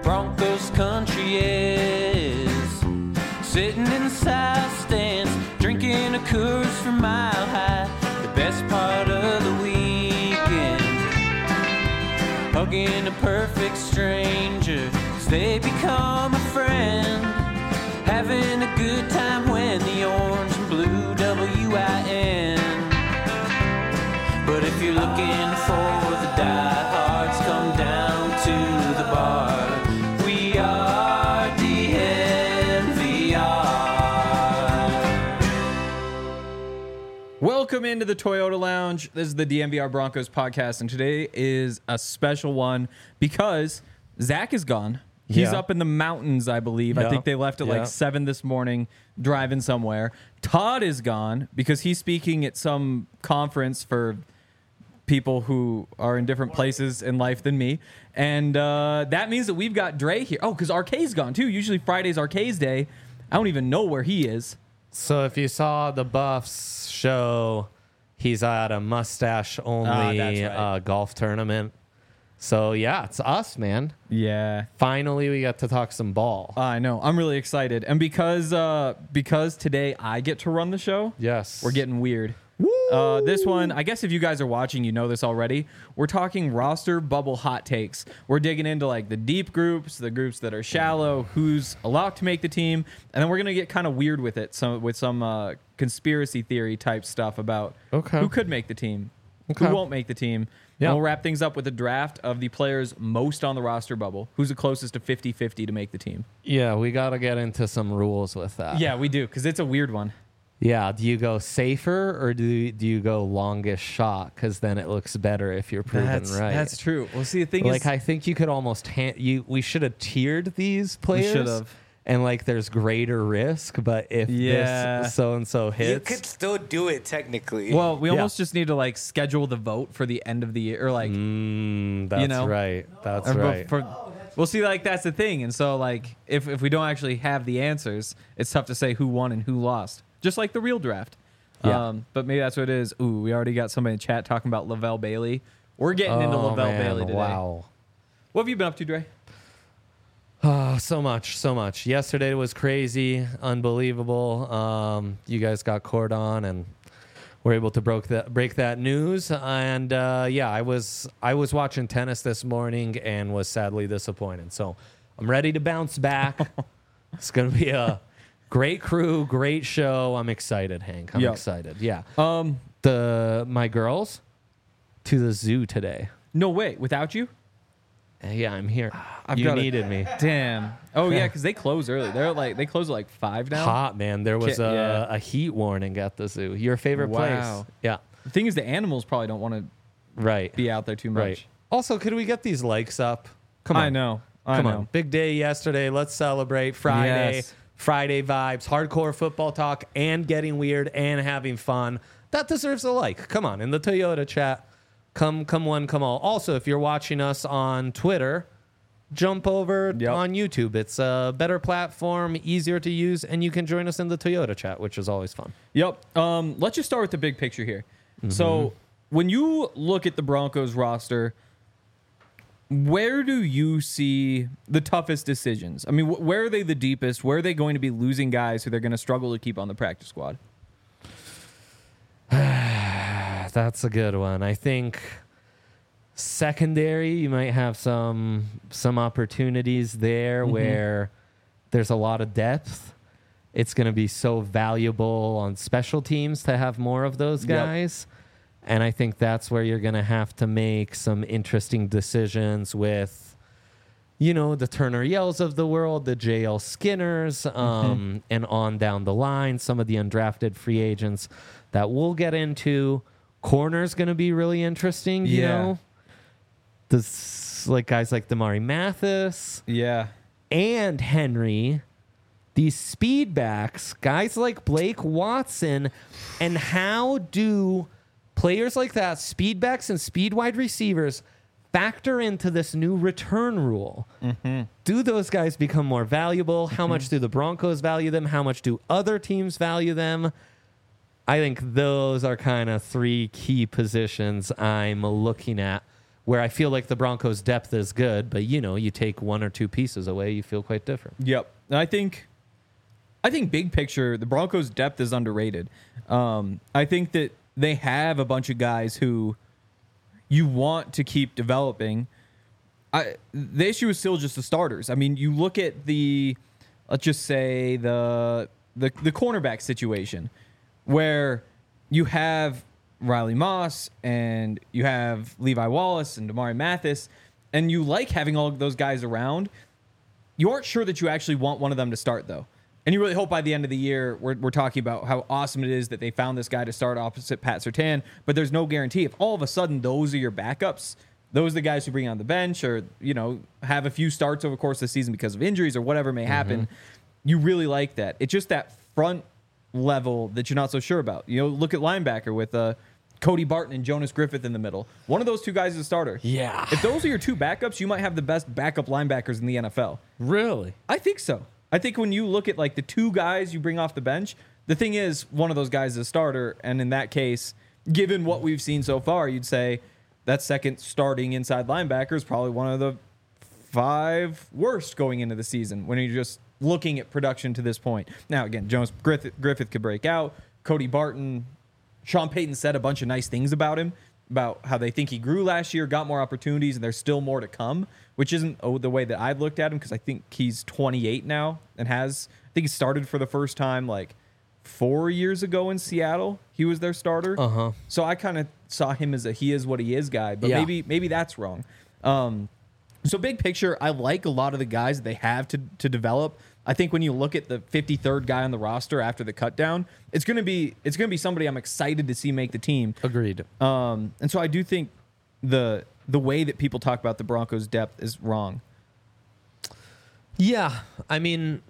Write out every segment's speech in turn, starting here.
Broncos country is. Sitting in the south stands, drinking a Coors from Mile High. The best part of the weekend, hugging a perfect stranger as they become a friend. Having a good time when the orange and blue WIN. But if you're looking for the diehards, come down to the bar. We are DNVR. Welcome into the Toyota Lounge. This is the DNVR Broncos podcast, and today is a special one because Zach is gone. He's up in the mountains, I believe. I think they left at like 7 this morning, driving somewhere. Todd is gone because he's speaking at some conference for people who are in different places in life than me. And that means that we've got Dre here. Oh, because RK's gone too. Usually Friday's RK's day. I don't even know where he is. So if you saw the Buffs show, he's at a mustache-only golf tournament. So, yeah, it's us, man. Yeah. Finally, we got to talk some ball. I know. I'm really excited. And because today I get to run the show, yes, we're getting weird. This one, I guess if you guys are watching, you know this already. We're talking roster bubble hot takes. We're digging into like the deep groups, the groups that are shallow, who's allowed to make the team, and then we're gonna get kind of weird with it. With some conspiracy theory type stuff about who could make the team, who won't make the team. Yeah. And we'll wrap things up with a draft of the players most on the roster bubble. Who's the closest to 50-50 to make the team? Yeah, we got to get into some rules with that. Yeah, we do, because it's a weird one. Yeah, do you go safer or do you go longest shot? Because then it looks better if you're proven right. That's true. Well, see, the thing is... I think you could almost... we should have tiered these players. We should have. And, there's greater risk, but if this so-and-so hits... You could still do it, technically. Well, we almost just need to, schedule the vote for the end of the year, or, that's right. That's right. We'll see, that's the thing. And so, if we don't actually have the answers, it's tough to say who won and who lost. Just like the real draft. Yeah. But maybe that's what it is. Ooh, we already got somebody in chat talking about Lavelle Bailey. We're getting into Lavelle Bailey today. Wow. What have you been up to, Dre? So much. Yesterday was crazy, unbelievable. You guys got cordon and were able to break that news. And I was watching tennis this morning and was sadly disappointed. So I'm ready to bounce back. It's gonna be a great crew, great show. I'm excited, Hank. I'm excited. Yeah. My girls to the zoo today. No way, without you? Yeah, I'm here. You needed me. Damn. Oh yeah, because they close early. They close at 5 now. Hot, man. There was a heat warning at the zoo. Your favorite place? Yeah. The thing is, the animals probably don't want to be out there too much. Right. Also, could we get these likes up? Come on. I know. Come on. Big day yesterday. Let's celebrate Friday. Yes. Friday vibes, hardcore football talk, and getting weird and having fun. That deserves a like. Come on, in the Toyota chat. Come one, come all. Also, if you're watching us on Twitter, jump over on YouTube. It's a better platform, easier to use, and you can join us in the Toyota chat, which is always fun. Yep. Let's just start with the big picture here. Mm-hmm. So when you look at the Broncos roster, where do you see the toughest decisions? I mean, where are they the deepest? Where are they going to be losing guys who they're going to struggle to keep on the practice squad? That's a good one. I think secondary, you might have some opportunities there where there's a lot of depth. It's going to be so valuable on special teams to have more of those guys. Yep. And I think that's where you're going to have to make some interesting decisions with, the Turner Yells of the world, the JL Skinners, and on down the line, some of the undrafted free agents that we'll get into. Corner's going to be really interesting, you know? Guys like Damari Mathis. Yeah. And Henry. These speed backs, guys like Blake Watson, and how do players like that, speed backs and speed wide receivers, factor into this new return rule? Do those guys become more valuable? How much do the Broncos value them? How much do other teams value them? I think those are kind of 3 key positions I'm looking at where I feel like the Broncos' depth is good, but you take one or two pieces away, you feel quite different. Yep. And I think big picture, the Broncos' depth is underrated. I think that they have a bunch of guys who you want to keep developing. The issue is still just the starters. I mean, you look at let's just say the cornerback situation where you have Riley Moss and you have Levi Wallace and Damari Mathis, and you like having all of those guys around. You aren't sure that you actually want one of them to start, though. And you really hope by the end of the year, we're talking about how awesome it is that they found this guy to start opposite Pat Surtain, but there's no guarantee. If all of a sudden those are your backups, those are the guys who bring on the bench or, have a few starts over the course of the season because of injuries or whatever may happen, you really like that. It's just that front level that you're not so sure about. Look at linebacker with Cody Barton and Jonas Griffith in the middle. One of those two guys is a starter. Yeah. If those are your two backups, you might have the best backup linebackers in the NFL. Really? I think so. I think when you look at like the two guys you bring off the bench, the thing is one of those guys is a starter. And in that case, given what we've seen so far, you'd say that second starting inside linebacker is probably one of the 5 worst going into the season when you're just looking at production to this point. Now, again, Jonas Griffith could break out. Cody Barton, Sean Payton said a bunch of nice things about him, about how they think he grew last year, got more opportunities, and there's still more to come, which isn't the way that I've looked at him because I think he's 28 now and I think he started for the first time like 4 years ago in Seattle. He was their starter. Uh-huh. So I kind of saw him as a he is what he is guy, but maybe that's wrong. So big picture, I like a lot of the guys that they have to develop. I think when you look at the 53rd guy on the roster after the cut down, it's gonna be somebody I'm excited to see make the team. Agreed. And so I do think the way that people talk about the Broncos' depth is wrong. Yeah, I mean,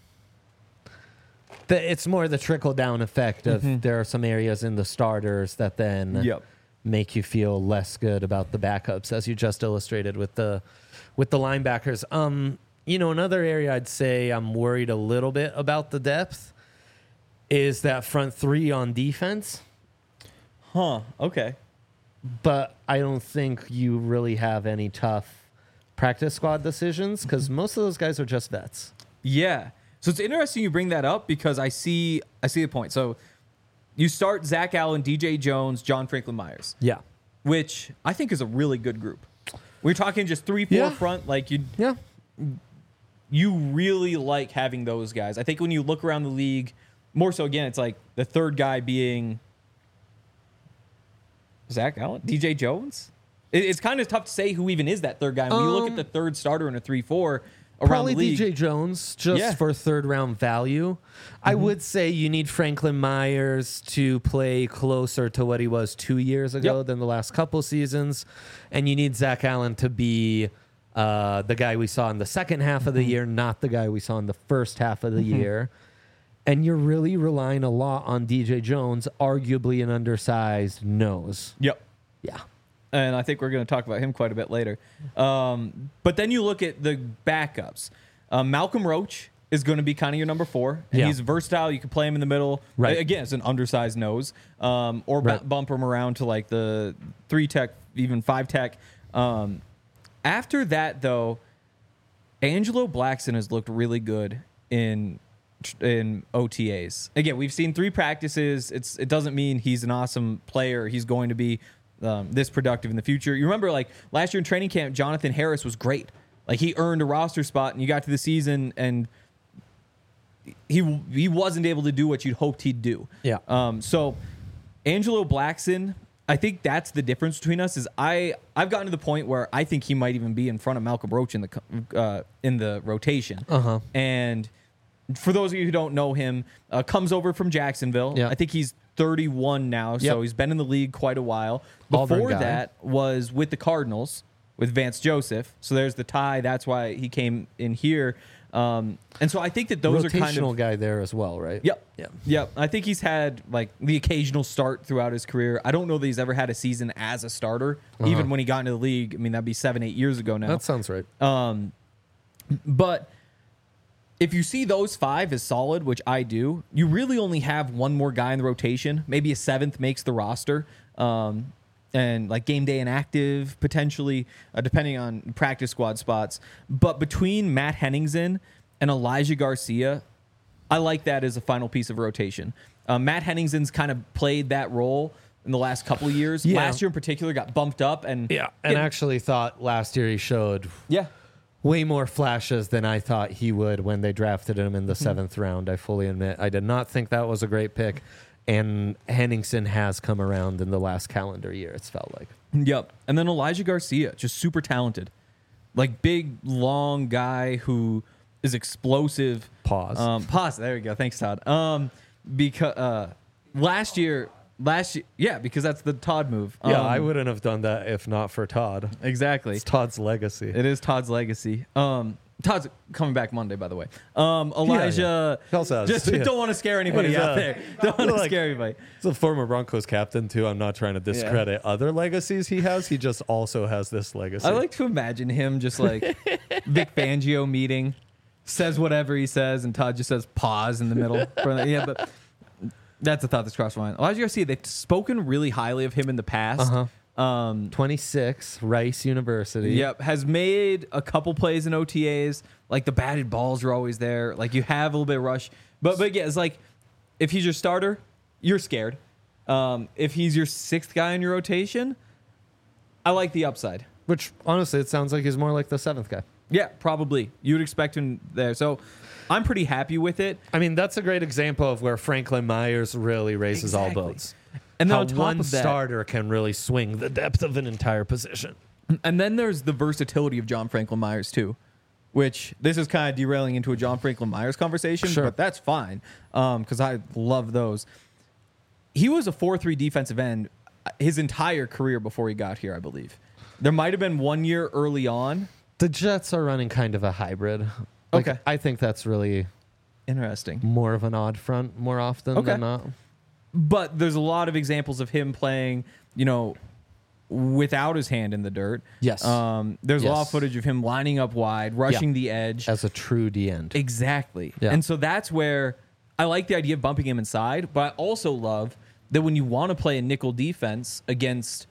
it's more the trickle down effect of there are some areas in the starters that then make you feel less good about the backups, as you just illustrated with the linebackers. Another area I'd say I'm worried a little bit about the depth is that front three on defense. Huh. Okay. But I don't think you really have any tough practice squad decisions because most of those guys are just vets. Yeah. So it's interesting you bring that up because I see the point. So you start Zach Allen, DJ Jones, John Franklin Myers. Yeah. Which I think is a really good group. We're talking just 3-4 front. Like you really like having those guys. I think when you look around the league, more so again, it's like the third guy being Zach Allen, DJ Jones. It's kind of tough to say who even is that third guy. When you look at the third starter in a 3-4 around the league. DJ Jones, just for third round value. I would say you need Franklin Myers to play closer to what he was 2 years ago than the last couple seasons. And you need Zach Allen to be the guy we saw in the second half of the year, not the guy we saw in the first half of the year. And you're really relying a lot on DJ Jones, arguably an undersized nose. Yep. Yeah. And I think we're going to talk about him quite a bit later. But then you look at the backups. Malcolm Roach is going to be kind of your number 4. And he's versatile. You can play him in the middle. Right. Again, it's an undersized nose. Or bump him around to like the 3-tech, even 5-tech. After that, though, Angelo Blackson has looked really good in OTAs. Again, we've seen 3 practices. It doesn't mean he's an awesome player. He's going to be this productive in the future. You remember, like last year in training camp, Jonathan Harris was great. Like he earned a roster spot, and you got to the season, and he wasn't able to do what you'd hoped he'd do. Yeah. So Angelo Blackson, I think that's the difference between us. Is I've gotten to the point where I think he might even be in front of Malcolm Roach in the rotation. And for those of you who don't know him, comes over from Jacksonville. I think he's 31 now, so he's been in the league quite a while. Before that was with the Cardinals with Vance Joseph. So there's the tie. That's why he came in here. And so I think that those are kind of guy there as well, right? Yep. I think he's had like the occasional start throughout his career. I don't know that he's ever had a season as a starter, even when he got into the league. I mean, that'd be 7-8 years ago now. That sounds right. But if you see those 5 as solid, which I do, you really only have one more guy in the rotation. Maybe a 7th makes the roster. and like game day inactive potentially, depending on practice squad spots. But between Matt Henningsen and Elijah Garcia, I like that as a final piece of rotation. Matt Henningsen's kind of played that role in the last couple of years. Yeah. Last year in particular got bumped up and actually thought last year he showed way more flashes than I thought he would when they drafted him in the 7th round. I fully admit I did not think that was a great pick. And Henningsen has come around in the last calendar year, it's felt like. Yep. And then Elijah Garcia, just super talented. Like big, long guy who is explosive. Pause. There we go. Thanks, Todd. Because last year, because that's the Todd move. I wouldn't have done that if not for Todd. Exactly. It's Todd's legacy. It is Todd's legacy. Todd's coming back Monday, by the way. Elijah, don't want to scare anybody out there. Don't want to scare anybody. He's a former Broncos captain, too. I'm not trying to discredit other legacies he has. He just also has this legacy. I like to imagine him just like Vic Fangio meeting, says whatever he says, and Todd just says pause in the middle. But that's a thought that's crossed my mind. Elijah Garcia, they've spoken really highly of him in the past. 26, Rice University. Yep, has made a couple plays in OTAs. Like the batted balls are always there. Like you have a little bit of rush, but yeah, it's like if he's your starter, you're scared. If he's your 6th guy in your rotation, I like the upside. Which honestly, it sounds like he's more like the 7th guy. Yeah, probably. You would expect him there. So I'm pretty happy with it. I mean, that's a great example of where Franklin Myers really raises all boats. And then how on top one of that, starter can really swing the depth of an entire position. And then there's the versatility of John Franklin Myers too, which this is kind of derailing into a John Franklin Myers conversation, but that's fine because I love those. He was a 4-3 defensive end his entire career before he got here, I believe. There might have been 1 year early on. The Jets are running kind of a hybrid. Okay. I think that's really interesting. More of an odd front more often than not. But there's a lot of examples of him playing, without his hand in the dirt. Yes. There's a lot of footage of him lining up wide, rushing the edge. As a true D-end. Exactly. Yeah. And so that's where I like the idea of bumping him inside, but I also love that when you want to play a nickel defense against,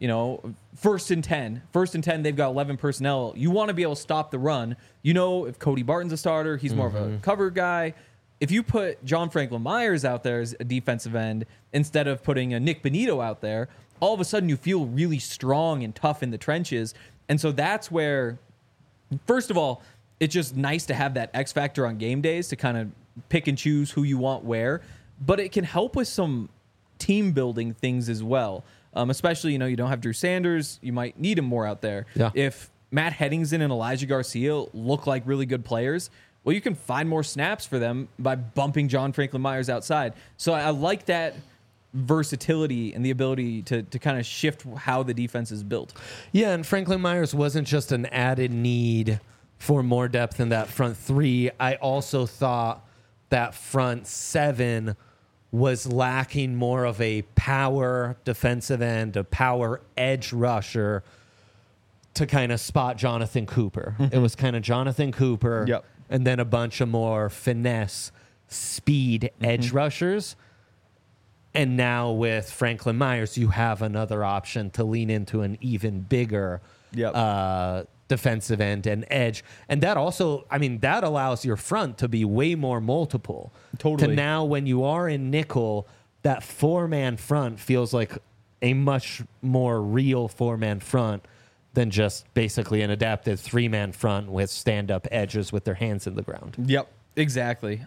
1st and 10, they've got 11 personnel. You want to be able to stop the run. If Cody Barton's a starter, he's more of a cover guy. If you put John Franklin Myers out there as a defensive end instead of putting a Nick Benito out there, all of a sudden you feel really strong and tough in the trenches. And so that's where, first of all, it's just nice to have that X factor on game days to kind of pick and choose who you want where. But it can help with some team building things as well. Especially, you don't have Drew Sanders. You might need him more out there. Yeah. If Matt Henningsen and Elijah Garcia look like really good players, well, you can find more snaps for them by bumping John Franklin Myers outside. So I like that versatility and the ability to kind of shift how the defense is built. Yeah, and Franklin Myers wasn't just an added need for more depth in that front 3. I also thought that front 7 was lacking more of a power defensive end, a power edge rusher to kind of spot Jonathan Cooper. It was kind of Jonathan Cooper. And then a bunch of more finesse, speed edge rushers. And now with Franklin Myers, you have another option to lean into an even bigger defensive end and edge. And that also, that allows your front to be way more multiple. Totally. To now, when you are in nickel, that 4-man front feels like a much more real 4-man front than just basically an adapted 3-man front with stand-up edges with their hands in the ground. Yep, exactly.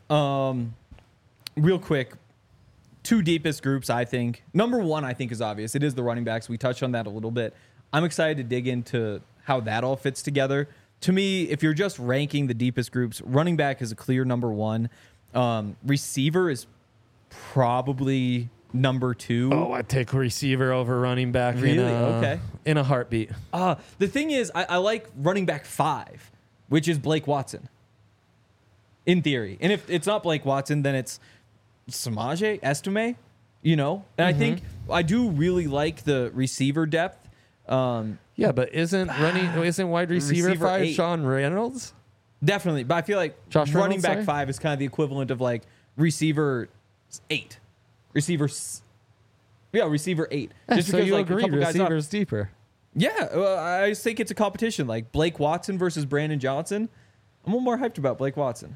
Real quick, 2 deepest groups, I think. Number 1, I think, is obvious. It is the running backs. We touched on that a little bit. I'm excited to dig into how that all fits together. To me, if you're just ranking the deepest groups, running back is a clear number 1. Receiver is probably number 2. Oh, I take receiver over running back. Really? In a heartbeat. The thing is, I like running back 5, which is Blake Watson. In theory. And if it's not Blake Watson, then it's Samaje Estime, And I think I do really like the receiver depth. Yeah, but isn't wide receiver 5 8. Sean Reynolds? Definitely. But I feel like running back 5 is kind of the equivalent of like receiver 8. Receiver Yeah, receiver 8. Just so you agree, receivers deeper. Yeah, I just think it's a competition. Like Blake Watson versus Brandon Johnson. I'm a little more hyped about Blake Watson.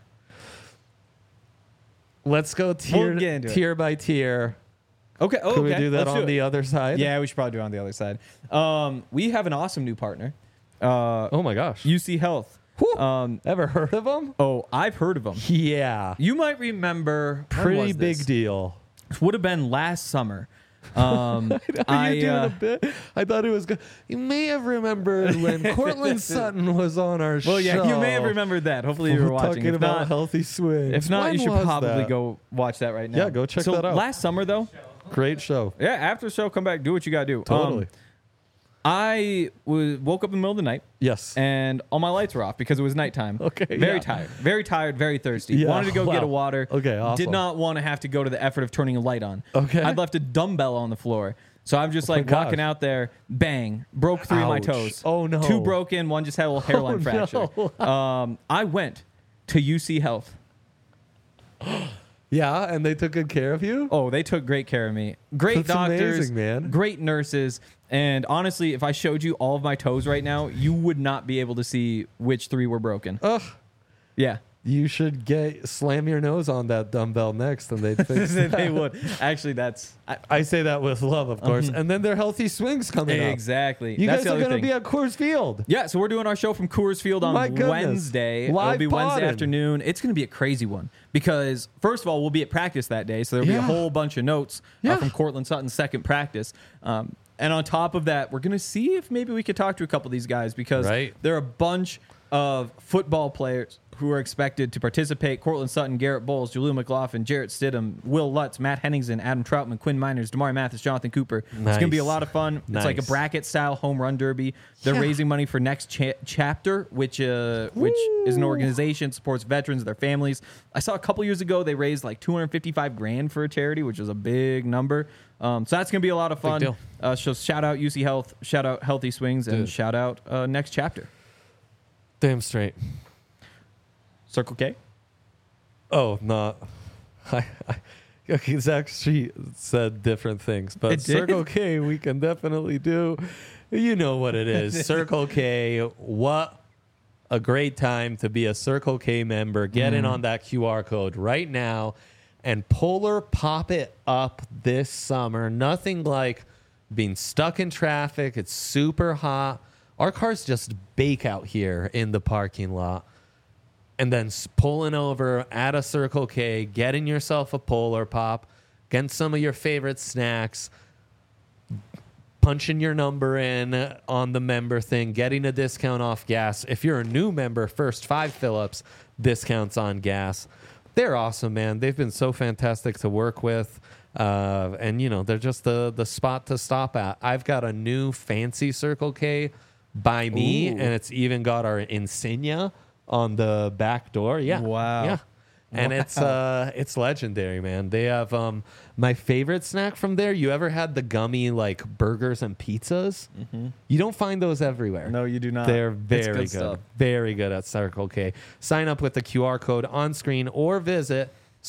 Let's go tier by tier. Okay. Oh, Can we do that on the other side? Yeah, we should probably do it on the other side. We have an awesome new partner. Oh my gosh. UC Health. Ever heard of them? Oh, I've heard of them. Yeah. You might remember. Pretty big deal. Would have been last summer. I thought it was good. You may have remembered when Cortland Sutton was on our show. Well, yeah, you may have remembered that. Hopefully you were watching. Talking about healthy swings. If not, you should probably go watch that right now. Yeah, go check that out. Last summer, though. Great show. Yeah, after the show, come back, do what you got to do. Totally. I woke up in the middle of the night. Yes. And all my lights were off because it was nighttime. Okay. Very tired, very thirsty. Yeah, Wanted to go get a water. Okay, awesome. Did not want to have to go to the effort of turning a light on. Okay. I'd left a dumbbell on the floor. So I'm just walking out there, bang, broke 3 of my toes. Oh, no. 2 broken, 1 just had a little hairline fracture. No. I went to UC Health. Yeah, and they took good care of you? Oh, they took great care of me. Great That's doctors, amazing, man. Great nurses. And honestly, if I showed you all of my toes right now, you would not be able to see which 3 were broken. Ugh. Yeah. You should slam your nose on that dumbbell next, and they'd fix that. They would. Actually, I say that with love, of course. And then there are healthy swings coming up. Exactly. You guys are going to be at Coors Field. Yeah, so we're doing our show from Coors Field on Wednesday. Live It'll be Wednesday podding. afternoon. It's going to be a crazy one because, first of all, we'll be at practice that day, so there'll be a whole bunch of notes from Cortland Sutton's second practice. And on top of that, we're going to see if maybe we could talk to a couple of these guys because there are a bunch of football players who are expected to participate. Cortland Sutton, Garrett Bowles, Jaleel McLaughlin, Jarrett Stidham, Will Lutz, Matt Henningsen, Adam Troutman, Quinn Miners, Damari Mathis, Jonathan Cooper. It's going to be a lot of fun. It's like a bracket-style home run derby. They're raising money for Next Chapter, which is an organization that supports veterans and their families. I saw a couple years ago they raised like $255,000 for a charity, which is a big number. So that's going to be a lot of fun. So shout out UC Health, shout out Healthy Swings, and shout out Next Chapter. Damn straight. Circle K? Oh, not. Okay, Zach Street said different things, but Circle K we can definitely do. You know what it is. Circle K, what a great time to be a Circle K member. Get in on that QR code right now and Polar pop it up this summer. Nothing like being stuck in traffic. It's super hot. Our cars just bake out here in the parking lot. And then pulling over at a Circle K, getting yourself a Polar Pop, getting some of your favorite snacks, punching your number in on the member thing, getting a discount off gas. If you're a new member, first 5 fill-ups, discounts on gas. They're awesome, man. They've been so fantastic to work with. And, you know, they're just the spot to stop at. I've got a new fancy Circle K by me, and it's even got our insignia on the back door. Yeah. Wow. Yeah. And it's legendary, man. They have my favorite snack from there. You ever had the gummy like burgers and pizzas? Mm-hmm. You don't find those everywhere. No, you do not. They're very good. Very good at Circle K. Sign up with the QR code on screen or visit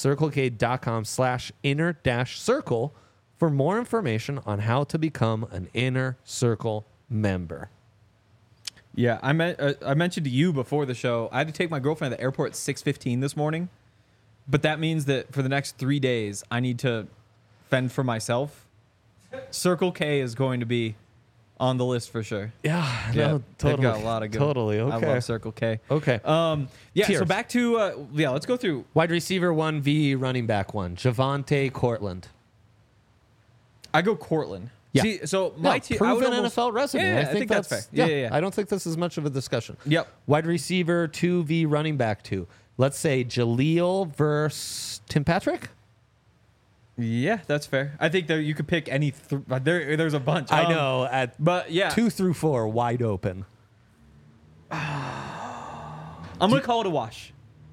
circlek.com/inner-circle for more information on how to become an Inner Circle member. Yeah, I mentioned to you before the show, I had to take my girlfriend at the airport at 6:15 this morning. But that means that for the next 3 days, I need to fend for myself. Circle K is going to be on the list for sure. Yeah, no, totally. They've got a lot of good. Totally, okay. I love Circle K. Okay. Tiers. So back to let's go through wide receiver 1 v running back 1. Javonte Cortland. I go Cortland. Yeah. See, so my team proven NFL resume. Yeah, I think that's fair. Yeah. I don't think this is much of a discussion. Yep. Wide receiver 2 v running back 2. Let's say Jaleel versus Tim Patrick. Yeah, that's fair. I think that you could pick any. There's a bunch. I know. But yeah, 2 through 4 wide open. I'm gonna call it a wash.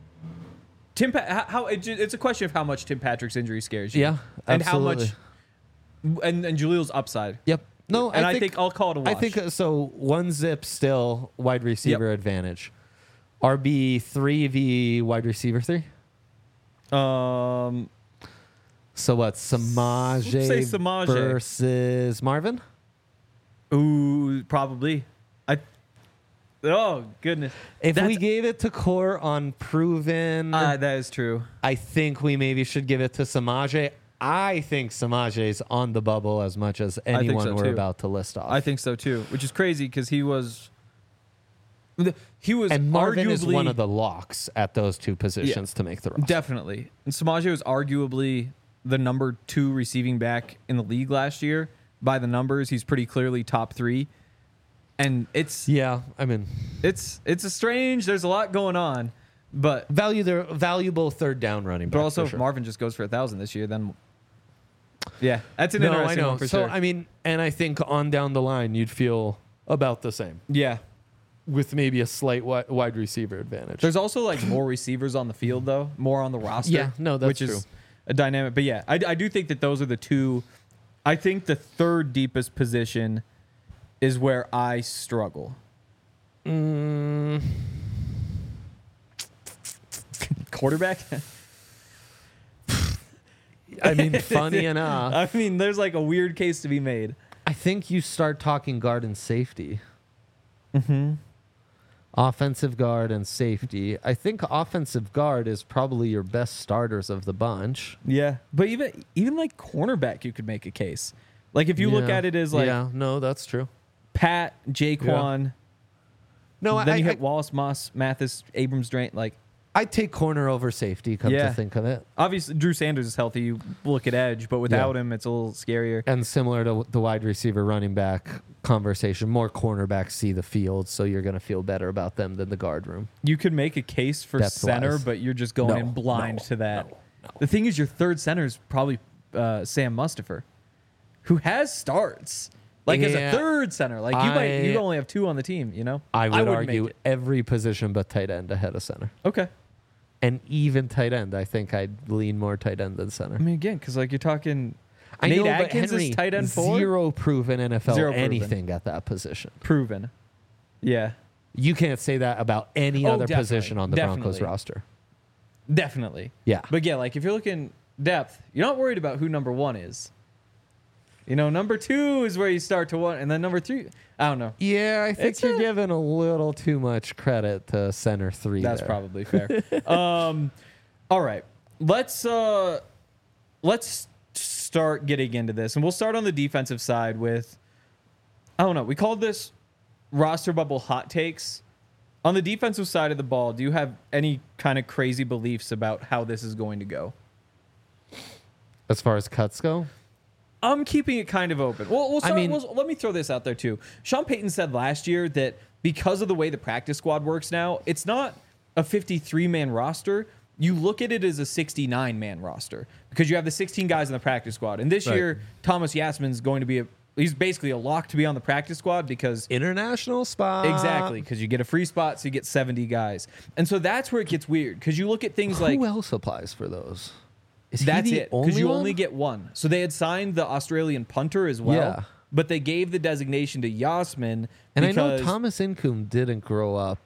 It's a question of how much Tim Patrick's injury scares you. Yeah, and absolutely. how much. And Jaleel's upside. Yep. No, I think I'll call it a wash. I think so. 1 zip still wide receiver advantage. RB 3 v wide receiver 3. So what? Samaje Say Samaje. versus Marvin? Ooh, probably. Oh, goodness. If we gave it to Core on proven, that is true. I think we maybe should give it to Samaje. I think Samaje's on the bubble as much as anyone so we're too. about to list off. I think so too, which is crazy because he was and Marvin arguably is one of the locks at those two positions to make the roster. definitely. And Samaje was arguably the number 2 receiving back in the league last year. By the numbers, he's pretty clearly top 3. And it's a strange. There's a lot going on, but valuable third down running back. but also for if sure. Marvin just goes for 1,000 this year, then yeah, that's an I interesting know. one for So sure. and I think on down the line you'd feel about the same Yeah, with maybe a slight wide receiver advantage. there's also like more receivers on the field though, more on the roster. Yeah, no, that's which is true. a dynamic. But yeah, I do think that those are the two. I think the third deepest position is where I struggle. Quarterback. I mean, funny enough, I mean, there's like a weird case to be made. I think you start talking guard and safety. Offensive guard and safety. I think offensive guard is probably your best starters of the bunch. Yeah, but even like cornerback, you could make a case. Like if you look at it as like no, that's true. Pat, Jaquan, No, then you hit Wallace, Moss, Mathis, Abrams, Drain. Like I'd take corner over safety. Come Yeah. to think of it, obviously Drew Sanders is healthy. You look at edge, but without him, it's a little scarier. and similar to the wide receiver, running back conversation, more cornerbacks see the field, so you're going to feel better about them than the guard room. You could make a case for Depth-wise. center, but you're just going in blind to that. The thing is, your third center is probably Sam Mustipher, who has starts. Like as a Yeah. third center, like you only have 2 on the team. You know, I would wouldn't argue make it. every position but tight end ahead of center. Okay. And even tight end, I think I'd lean more tight end than center. I mean, again, because like you're talking, I Nate know, but Atkins Henry, is tight end 4. Zero proven NFL Zero proven. anything at that position. Proven. Yeah, You can't say that about any Oh, other definitely. position on the Broncos Definitely. roster. definitely. Yeah. But yeah, like if you're looking depth, you're not worried about who number 1 is. You know, number 2 is where you start to 1, and then number 3. I don't know. Yeah, I think It's you're a- giving a little too much credit to center 3. That's there. probably fair. All right, let's start getting into this, and we'll start on the defensive side with, I don't know, we called this roster bubble hot takes. On the defensive side of the ball, do you have any kind of crazy beliefs about how this is going to go? As far as cuts go, I'm keeping it kind of open. We'll start, I mean- let me throw this out there too. Sean Payton said last year that because of the way the practice squad works now, it's not a 53-man roster. You look at it as a 69-man roster because you have the 16 guys in the practice squad. And this Right. year, Thomas Yasmin's going to be he's basically a lock to be on the practice squad because international spot. exactly, because you get a free spot, so you get 70 guys. And so that's where it gets weird because you look at things Who like else applies for those? Is that's he the it, because you one? only get one. So they had signed the Australian punter as well, Yeah. but they gave the designation to Yasmin. And I know because- Thomas Incoom didn't grow up.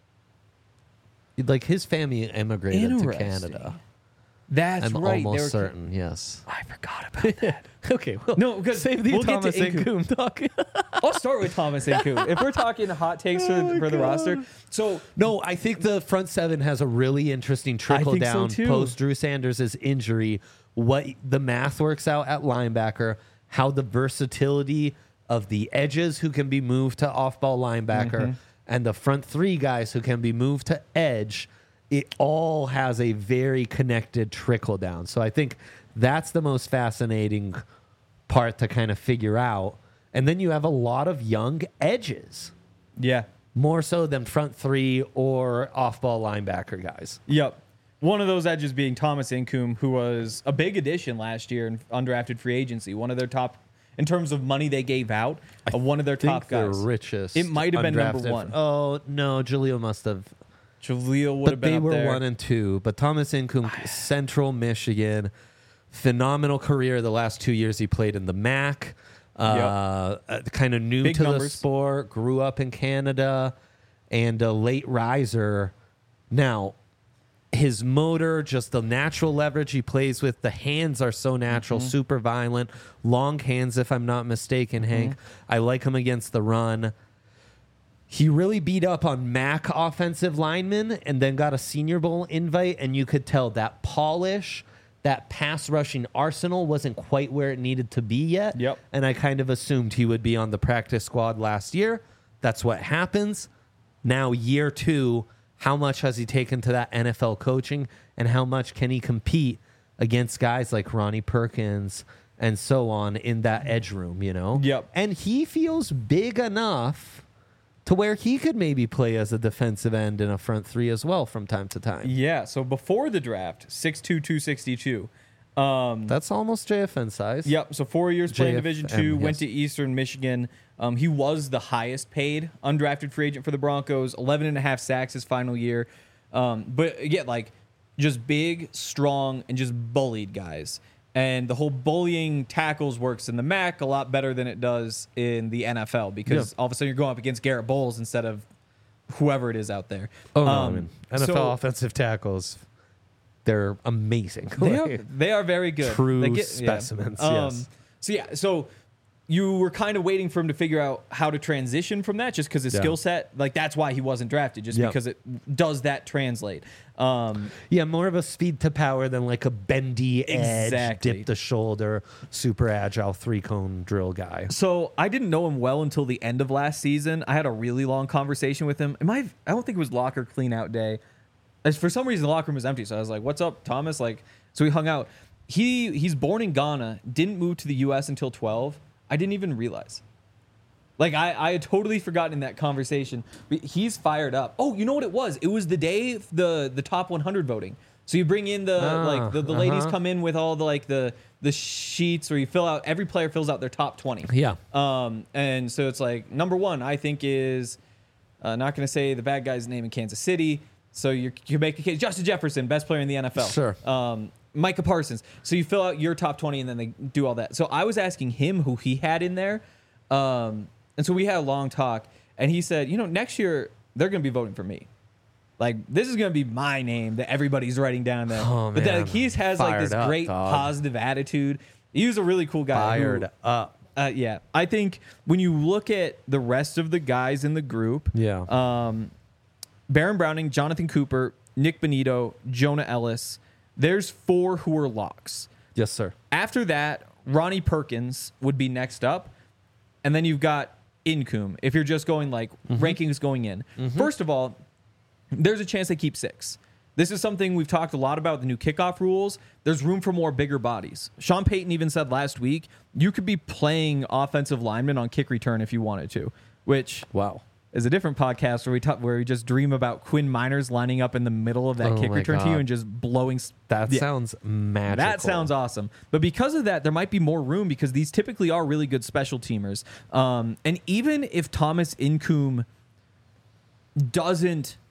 Like his family immigrated to Interesting. Canada. That's I'm right. almost they were- certain. Yes. I forgot about that. Okay. Well, No, because save the we'll Thomas get to Incoom. Incoom talk. I'll start with Thomas Incoom. If we're talking hot takes for the roster, so No, I think the front seven has a really interesting trickle think so down too. post Drew Sanders' injury. What the math works out at linebacker, how the versatility of the edges who can be moved to off-ball linebacker, and the front 3 guys who can be moved to edge. It all has a very connected trickle down. So I think that's the most fascinating part to kind of figure out. And then you have a lot of young edges, yeah, more so than front 3 or off-ball linebacker guys. yep. One of those edges being Thomas Incoom, who was a big addition last year in undrafted free agency. One of their top, in terms of money they gave out, one of their top They're guys. richest. It might have been number undrafted. 1. Oh, no, Jaleel must have. Jaleel would But have been they up were there. 1 and 2. But Thomas Incoom, Central Michigan, phenomenal career. The last 2 years he played in the MAC. Kind of new Big to the numbers. sport, grew up in Canada, and a late riser. Now, his motor, just the natural leverage he plays with. The hands are so natural, super violent, long hands, if I'm not mistaken, Hank. I like him against the run. He really beat up on MAC offensive linemen and then got a Senior Bowl invite, and you could tell that polish, that pass rushing arsenal wasn't quite where it needed to be yet. Yep. And I kind of assumed he would be on the practice squad last year. That's what happens. Now, year 2, how much has he taken to that NFL coaching, and how much can he compete against guys like Ronnie Perkins and so on in that edge room, you know? Yep. And he feels big enough to where he could maybe play as a defensive end in a front 3 as well from time to time. Yeah, so before the draft, 6'2", 262. That's almost JFN size. Yep, so 4 years playing Division II, yes. went to Eastern Michigan. He was the highest paid undrafted free agent for the Broncos, 11.5 sacks his final year. But again, like, just big, strong, and just bullied guys. And the whole bullying tackles works in the MAC a lot better than it does in the NFL, because all of a sudden you're going up against Garrett Bowles instead of whoever it is out there. Oh, no, I mean, NFL offensive tackles, they're amazing. They are very good. True specimens, yes. So you were kind of waiting for him to figure out how to transition from that, just because his skill set, like, that's why he wasn't drafted, just because it does that translate. More of a speed to power than like a bendy edge, dip the shoulder, super agile 3-cone drill guy. So I didn't know him well until the end of last season. I had a really long conversation with him. I don't think it was locker clean out day. For some reason, the locker room was empty. So I was like, "What's up, Thomas?" So we hung out. He's born in Ghana, didn't move to the U.S. until 12. I didn't even realize. Like, I had totally forgotten in that conversation. But he's fired up. Oh, you know what it was? It was the day the top 100 voting. So you bring in the ladies come in with all the sheets, where you fill out, every player fills out their top 20. Yeah. And so it's like, number 1, I think, is not going to say the bad guy's name in Kansas City. So you make a case. Justin Jefferson, best player in the NFL. Sure. Micah Parsons. So you fill out your top 20, and then they do all that. So I was asking him who he had in there. And so we had a long talk, and he said, next year they're going to be voting for me. Like, this is going to be my name that everybody's writing down there. Oh, but man. He has like this great positive attitude. He was a really cool guy. Fired up. Yeah. I think when you look at the rest of the guys in the group, Baron Browning, Jonathan Cooper, Nick Bonito, Jonah Ellis, there's 4 who are locks. Yes, sir. After that, Ronnie Perkins would be next up. And then you've got Incoom, if you're just going like rankings going in. First of all, there's a chance they keep 6. This is something we've talked a lot about, the new kickoff rules. There's room for more bigger bodies. Sean Payton even said last week, you could be playing offensive linemen on kick return if you wanted to, which is a different podcast where we just dream about Quinn Miners lining up in the middle of that kick return to you and just blowing. That sounds magical. That sounds awesome. But because of that, there might be more room, because these typically are really good special teamers. And even if Thomas Incoom doesn't,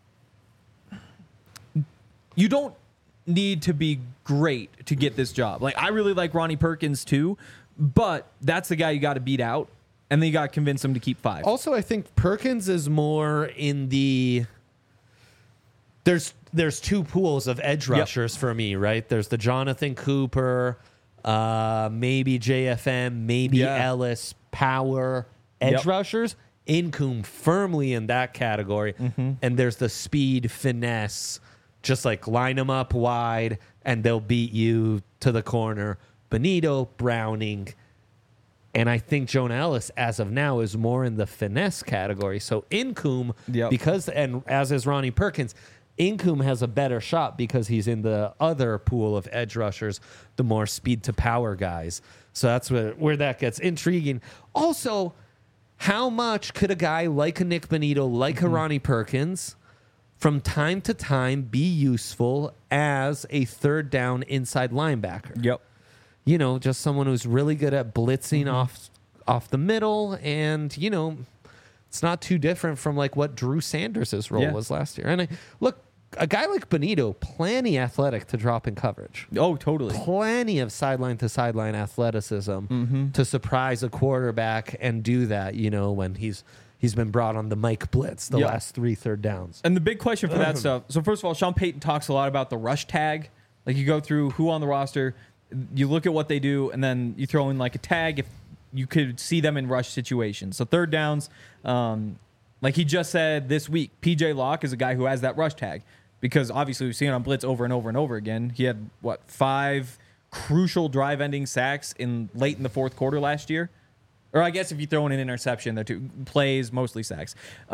you don't need to be great to get this job. Like, I really like Ronnie Perkins too, but that's the guy you got to beat out. And then you got to convince him to keep 5. Also, I think Perkins is more in the... There's 2 pools of edge rushers for me, right? There's the Jonathan Cooper, maybe JFM, maybe Ellis, power edge rushers. Incoom firmly in that category. And there's the speed, finesse, just like line them up wide, and they'll beat you to the corner. Bonito, Browning... And I think Jonah Ellis, as of now, is more in the finesse category. So Incoom, and as is Ronnie Perkins, Incoom has a better shot because he's in the other pool of edge rushers, the more speed to power guys. So that's where that gets intriguing. Also, how much could a guy like a Nick Bonito, like a Ronnie Perkins, from time to time be useful as a third down inside linebacker? Yep. Just someone who's really good at blitzing off the middle, and it's not too different from like what Drew Sanders' role was last year. And look, a guy like Bonito, plenty athletic to drop in coverage. Oh, totally. Plenty of sideline to sideline athleticism to surprise a quarterback and do that. When he's he's been brought on the Mike Blitz the last 3 third downs. And the big question for that stuff. So first of all, Sean Payton talks a lot about the rush tag. Like you go through who on the roster, you look at what they do, and then you throw in like a tag if you could see them in rush situations. So third downs, like he just said this week, PJ Locke is a guy who has that rush tag because obviously we've seen it on blitz over and over and over again. He had 5 crucial drive-ending sacks late in the fourth quarter last year. Or I guess if you throw in an interception, they're 2 plays, mostly sacks.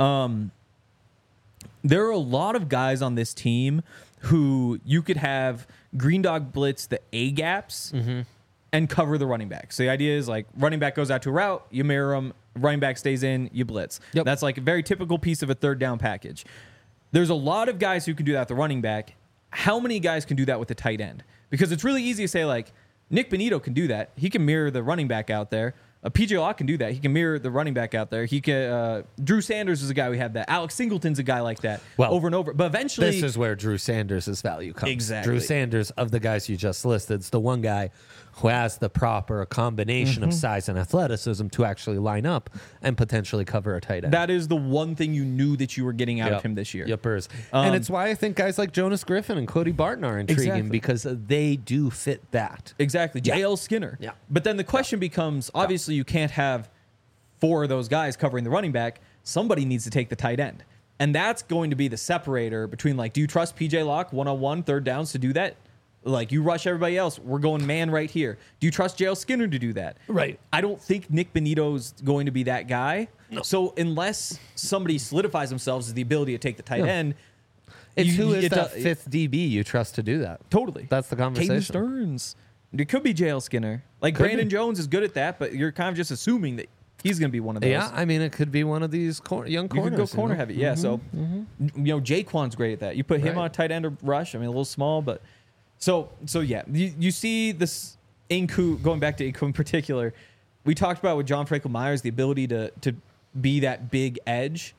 There are a lot of guys on this team who you could have green dog blitz the A gaps and cover the running back. So the idea is like running back goes out to a route, you mirror him, running back stays in, you blitz. Yep. That's like a very typical piece of a third down package. There's a lot of guys who can do that with the running back. How many guys can do that with the tight end? Because it's really easy to say like Nick Benito can do that. He can mirror the running back out there. PJ Locke can do that. He can mirror the running back out there. He can. Drew Sanders is a guy we have that. Alex Singleton's a guy like that. Over and over. But eventually, this is where Drew Sanders' value comes. Exactly. Drew Sanders, of the guys you just listed, is the one guy who has the proper combination of size and athleticism to actually line up and potentially cover a tight end. That is the one thing you knew that you were getting out of him this year. Yepers. And it's why I think guys like Jonas Griffin and Cody Barton are intriguing because they do fit that. Exactly. J.L. Skinner. Yeah. But then the question becomes, obviously you can't have 4 of those guys covering the running back. Somebody needs to take the tight end. And that's going to be the separator between like, do you trust PJ Locke one-on-one third downs to do that? Like, you rush everybody else. We're going man right here. Do you trust J.L. Skinner to do that? Right. I don't think Nick Benito's going to be that guy. No. So unless somebody solidifies themselves as the ability to take the tight end, it's who is that 5th DB you trust to do that? Totally. That's the conversation. Caden Stearns. It could be J.L. Skinner. Like, Brandon Jones is good at that, but you're kind of just assuming that he's going to be one of those. Yeah, I mean, it could be one of these young corners. You could go corner heavy. Yeah, so, Jaquan's great at that. You put him on a tight end or rush. I mean, a little small, but... So yeah, you see this Nku, going back to Nku in particular, we talked about with John Franklin Myers, the ability to be that big edge.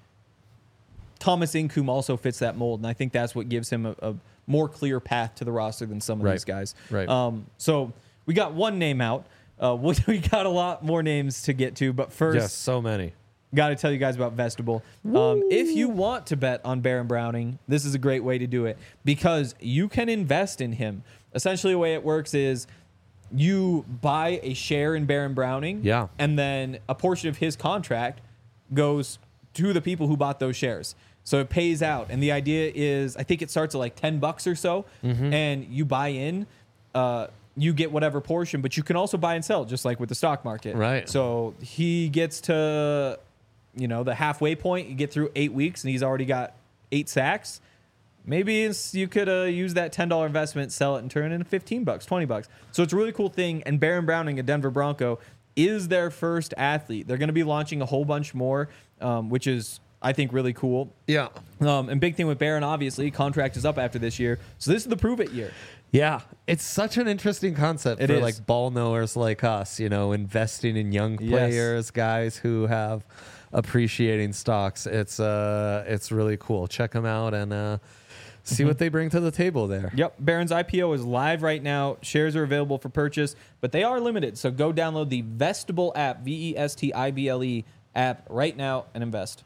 Thomas Nku also fits that mold, and I think that's what gives him a more clear path to the roster than some of these guys. Right. So we got one name out. We got a lot more names to get to, but first... Yes, so many. Got to tell you guys about Vestibule. If you want to bet on Baron Browning, this is a great way to do it because you can invest in him. Essentially, the way it works is you buy a share in Baron Browning, and then a portion of his contract goes to the people who bought those shares. So it pays out. And the idea is, I think it starts at like $10 or so, and you buy in. You get whatever portion, but you can also buy and sell, just like with the stock market. Right. So he gets to... the halfway point, you get through 8 weeks and he's already got 8 sacks. Maybe you could use that $10 investment, sell it, and turn it into $15, $20. So it's a really cool thing. And Baron Browning, a Denver Bronco, is their first athlete. They're going to be launching a whole bunch more, which is, I think, really cool. Yeah. And big thing with Baron, obviously, contract is up after this year. So this is the prove it year. Yeah, it's such an interesting concept for like ball knowers like us, investing in young players, guys who have appreciating stocks. It's really cool. Check them out and see what they bring to the table there. Yep. Baron's IPO is live right now. Shares are available for purchase, but they are limited. So go download the Vestibule app, Vestible app right now and invest.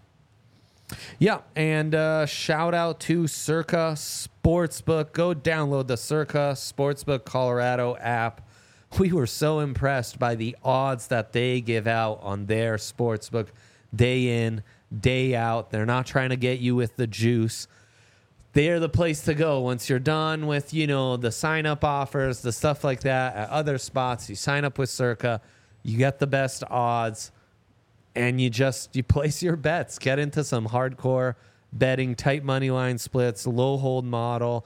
Yeah, and shout out to Circa Sportsbook. Go download the Circa Sportsbook Colorado app. We were so impressed by the odds that they give out on their sportsbook day in, day out. They're not trying to get you with the juice. They're the place to go once you're done with, the sign-up offers, the stuff like that at other spots. You sign up with Circa, you get the best odds, and you place your bets. Get into some hardcore betting, tight money line splits, low hold model.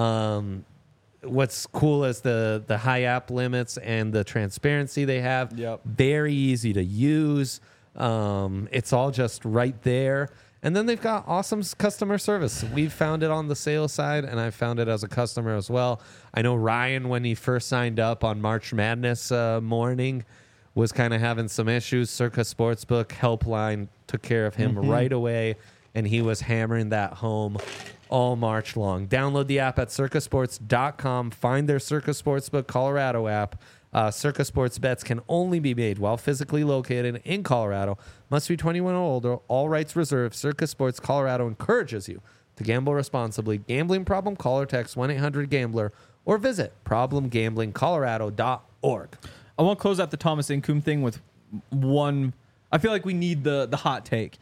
What's cool is the high app limits and the transparency they have. Yep. Very easy to use. It's all just right there. And then they've got awesome customer service. We've found it on the sales side, and I found it as a customer as well. I know Ryan, when he first signed up on March Madness morning, was kind of having some issues. Circa Sportsbook helpline took care of him right away, and he was hammering that home all March long. Download the app at circasports.com. Find their Circa Sportsbook Colorado app. Circa Sports bets can only be made while physically located in Colorado. Must be 21 or older. All rights reserved. Circa Sports Colorado encourages you to gamble responsibly. Gambling problem? Call or text 1-800-GAMBLER or visit problemgamblingcolorado.org. I want to close out the Thomas Incoom thing with one. I feel like we need the hot take.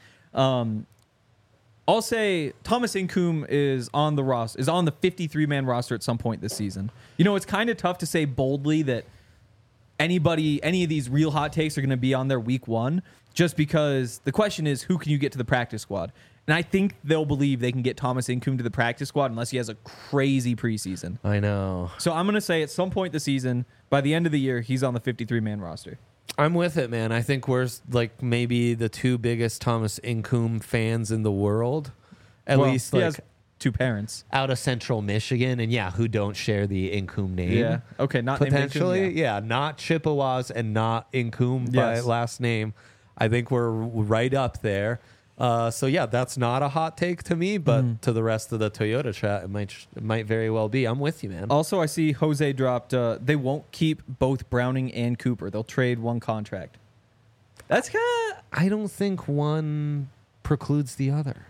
I'll say Thomas Incoom is on the 53-man roster at some point this season. You know, it's kind of tough to say boldly that any of these real hot takes are going to be on their week one, just because the question is, who can you get to the practice squad? And I think they'll believe they can get Thomas Incoom to the practice squad unless he has a crazy preseason. I know. So I'm going to say at some point this season, by the end of the year, he's on the 53-man roster. I'm with it, man. I think we're like maybe the two biggest Thomas Incoom fans in the world. At least he like has two parents out of Central Michigan, and who don't share the Incoom name. Yeah. Okay. Not potentially. named Incoom, Not Chippewas and not Incoom by last name. I think we're right up there. That's not a hot take to me, but to the rest of the Toyota chat, it might very well be. I'm with you, man. Also, I see Jose dropped. They won't keep both Browning and Cooper. They'll trade one contract. That's kind of. I don't think one precludes the other.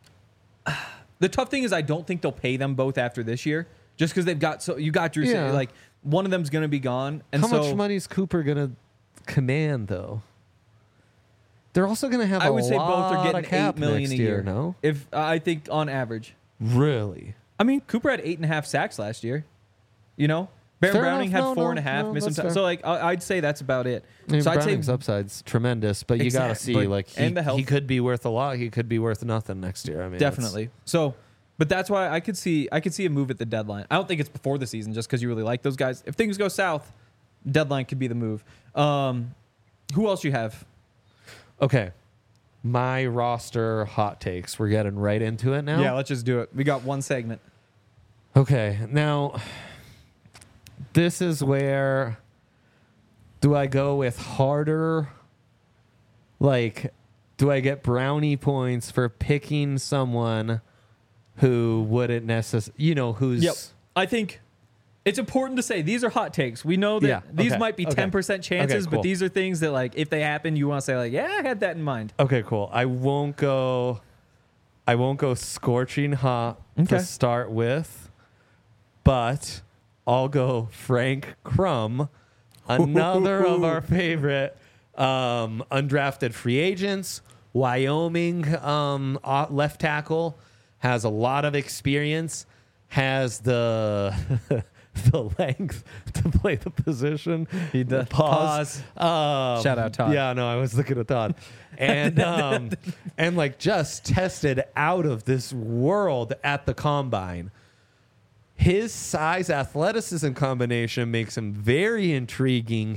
The tough thing is, I don't think they'll pay them both after this year, just because they've got you got Drew. Yeah. Like one of them's going to be gone. And how much money is Cooper going to command, though? They're also going to have. I would say both are getting $8 million a year. No, if I think on average. Really? I mean, Cooper had 8.5 sacks last year. You know, Baron Browning had 4.5. Missing time. So I'd say that's about it. I mean, so Browning's upside's tremendous, but you got to see he could be worth a lot. He could be worth nothing next year. I mean, definitely. So, but that's why I could see a move at the deadline. I don't think it's before the season, just because you really like those guys. If things go south, deadline could be the move. Who else you have? Okay. My roster hot takes. We're getting right into it now. Yeah, let's just do it. We got one segment. Okay. Now, this is where do I go with harder? Like, do I get brownie points for picking someone who wouldn't necessarily, who's. Yep. I think it's important to say these are hot takes. We know that these might be 10% chances, but these are things that, like, if they happen, you want to say, like, yeah, I had that in mind. Okay, cool. I won't go scorching hot to start with, but I'll go Frank Crum, another of our favorite undrafted free agents. Wyoming left tackle, has a lot of experience, has the the length to play the position. He does. Pause. Shout out Todd. Yeah, no, I was looking at Todd. And and like just tested out of this world at the combine. His size athleticism combination makes him very intriguing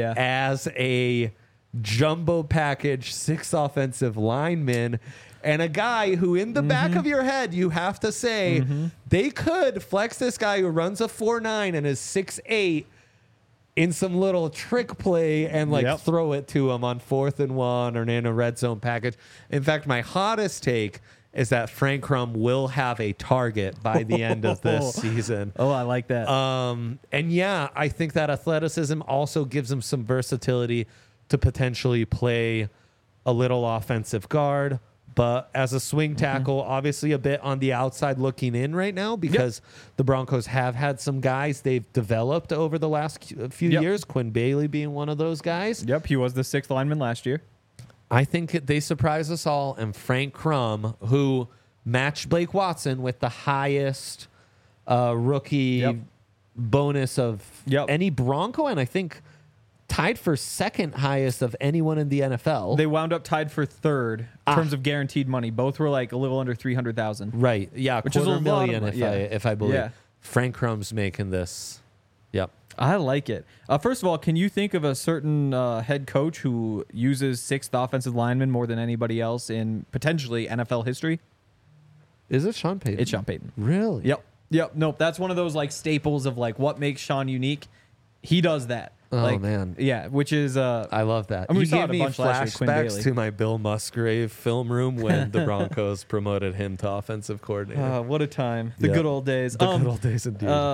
as a jumbo package 6 offensive lineman. And a guy who, in the back of your head, you have to say, they could flex this guy who runs a 4.9 and is 6'8" in some little trick play and throw it to him on 4th and 1 or in a red zone package. In fact, my hottest take is that Frank Crum will have a target by the end of this season. Oh, I like that. And yeah, I think that athleticism also gives him some versatility to potentially play a little offensive guard. But as a swing tackle, obviously a bit on the outside looking in right now because the Broncos have had some guys they've developed over the last few years, Quinn Bailey being one of those guys. Yep, he was the 6th lineman last year. I think they surprise us all. And Frank Crum, who matched Blake Watson with the highest rookie bonus of any Bronco, and I think tied for 2nd highest of anyone in the NFL. They wound up tied for 3rd in terms of guaranteed money. Both were like a little under $300,000. Right. Yeah. Which is a lot of money. If I believe. Yeah. Frank Crum's making this. Yep. I like it. First of all, can you think of a certain head coach who uses 6th offensive lineman more than anybody else in potentially NFL history? Is it Sean Payton? It's Sean Payton. Really? Yep. Nope. That's one of those like staples of like what makes Sean unique. He does that. Oh, man. Yeah, which is... I love that. I mean, you gave me flashbacks to my Bill Musgrave film room when the Broncos promoted him to offensive coordinator. What a time. The good old days. The good old days indeed.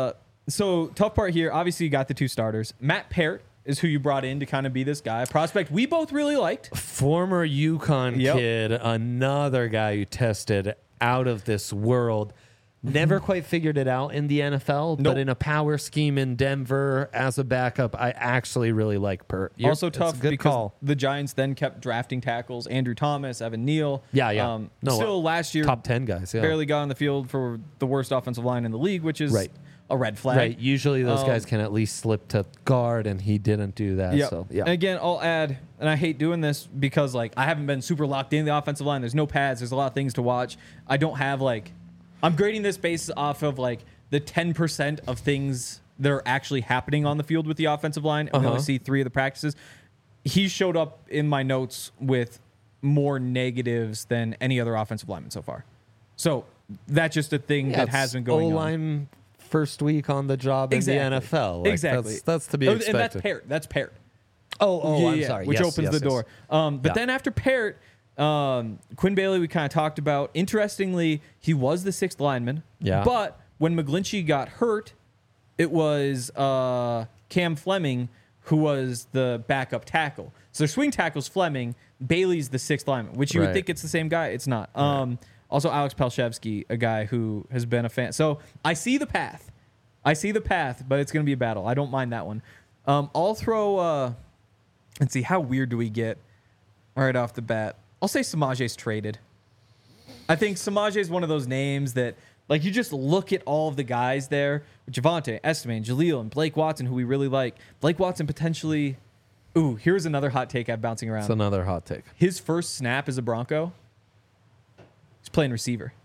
So tough part here. Obviously, you got the two starters. Matt Parrott is who you brought in to kind of be this guy. A prospect we both really liked. Former UConn Yep. kid, another guy who tested out of this world. Never quite figured it out in the NFL, Nope. but in a power scheme in Denver as a backup, I actually really like Pert. Also It's tough a good because call. the Giants then kept drafting tackles. Andrew Thomas, Evan Neal. Yeah. Still last year, Top 10 guys, yeah. barely got on the field for the worst offensive line in the league, which is Right. a red flag. Right. Usually those guys can at least slip to guard, and he didn't do that. Yep. So, yeah. And again, I'll add, and I hate doing this because like I haven't been super locked in the offensive line. There's no pads. There's a lot of things to watch. I don't have I'm grading this based off of like the 10% of things that are actually happening on the field with the offensive line. And we only see 3 of the practices. He showed up in my notes with more negatives than any other offensive lineman so far. So that's just a thing that has been going on. O-line first week on the job in the NFL. Like, exactly. That's to be expected. And that's Parrott. That's Parrott. I'm sorry. Which Yes, opens yes, the door. yes. But then after Parrott, Quinn Bailey, we kind of talked about. Interestingly, he was the 6th lineman. Yeah. But when McGlinchey got hurt, it was Cam Fleming who was the backup tackle. So their swing tackle's Fleming. Bailey's the 6th lineman, which you would Right. think it's the same guy. It's not. Also, Alex Palshevsky, a guy who has been a fan. So I see the path. But it's going to be a battle. I don't mind that one. I'll throw. Let's see. How weird do we get right off the bat? I'll say Samaje's traded. I think Samaje is one of those names that, like, you just look at all of the guys there. Javonte, Esteban, Jaleel, and Blake Watson, who we really like. Blake Watson potentially. Ooh, here's another hot take I'm bouncing around. It's another hot take. His first snap as a Bronco, he's playing receiver.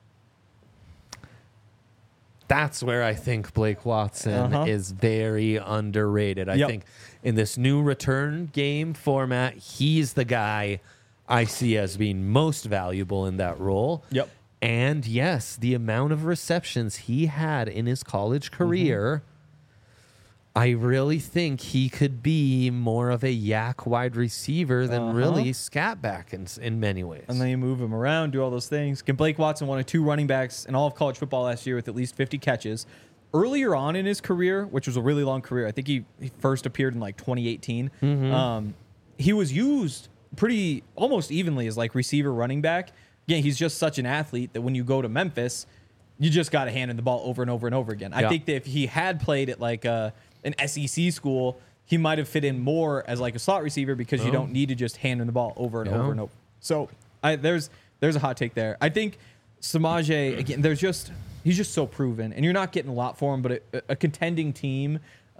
That's where I think Blake Watson is very underrated. I think in this new return game format, he's the guy I see as being most valuable in that role. Yep. And yes, the amount of receptions he had in his college career, I really think he could be more of a yak wide receiver than really scat back in many ways. And then you move him around, do all those things. Blake Watson, one of 2 running backs in all of college football last year with at least 50 catches. Earlier on in his career, which was a really long career, I think he first appeared in like 2018. He was used pretty almost evenly as like receiver running back. Again, he's just such an athlete that when you go to Memphis, you just got to hand him the ball over and over and over again. I think that if he had played at like an SEC school, he might have fit in more as like a slot receiver because you don't need to just hand him the ball over and over and over. So there's a hot take there. I think Samaje, again, he's just so proven, and you're not getting a lot for him, but a contending team,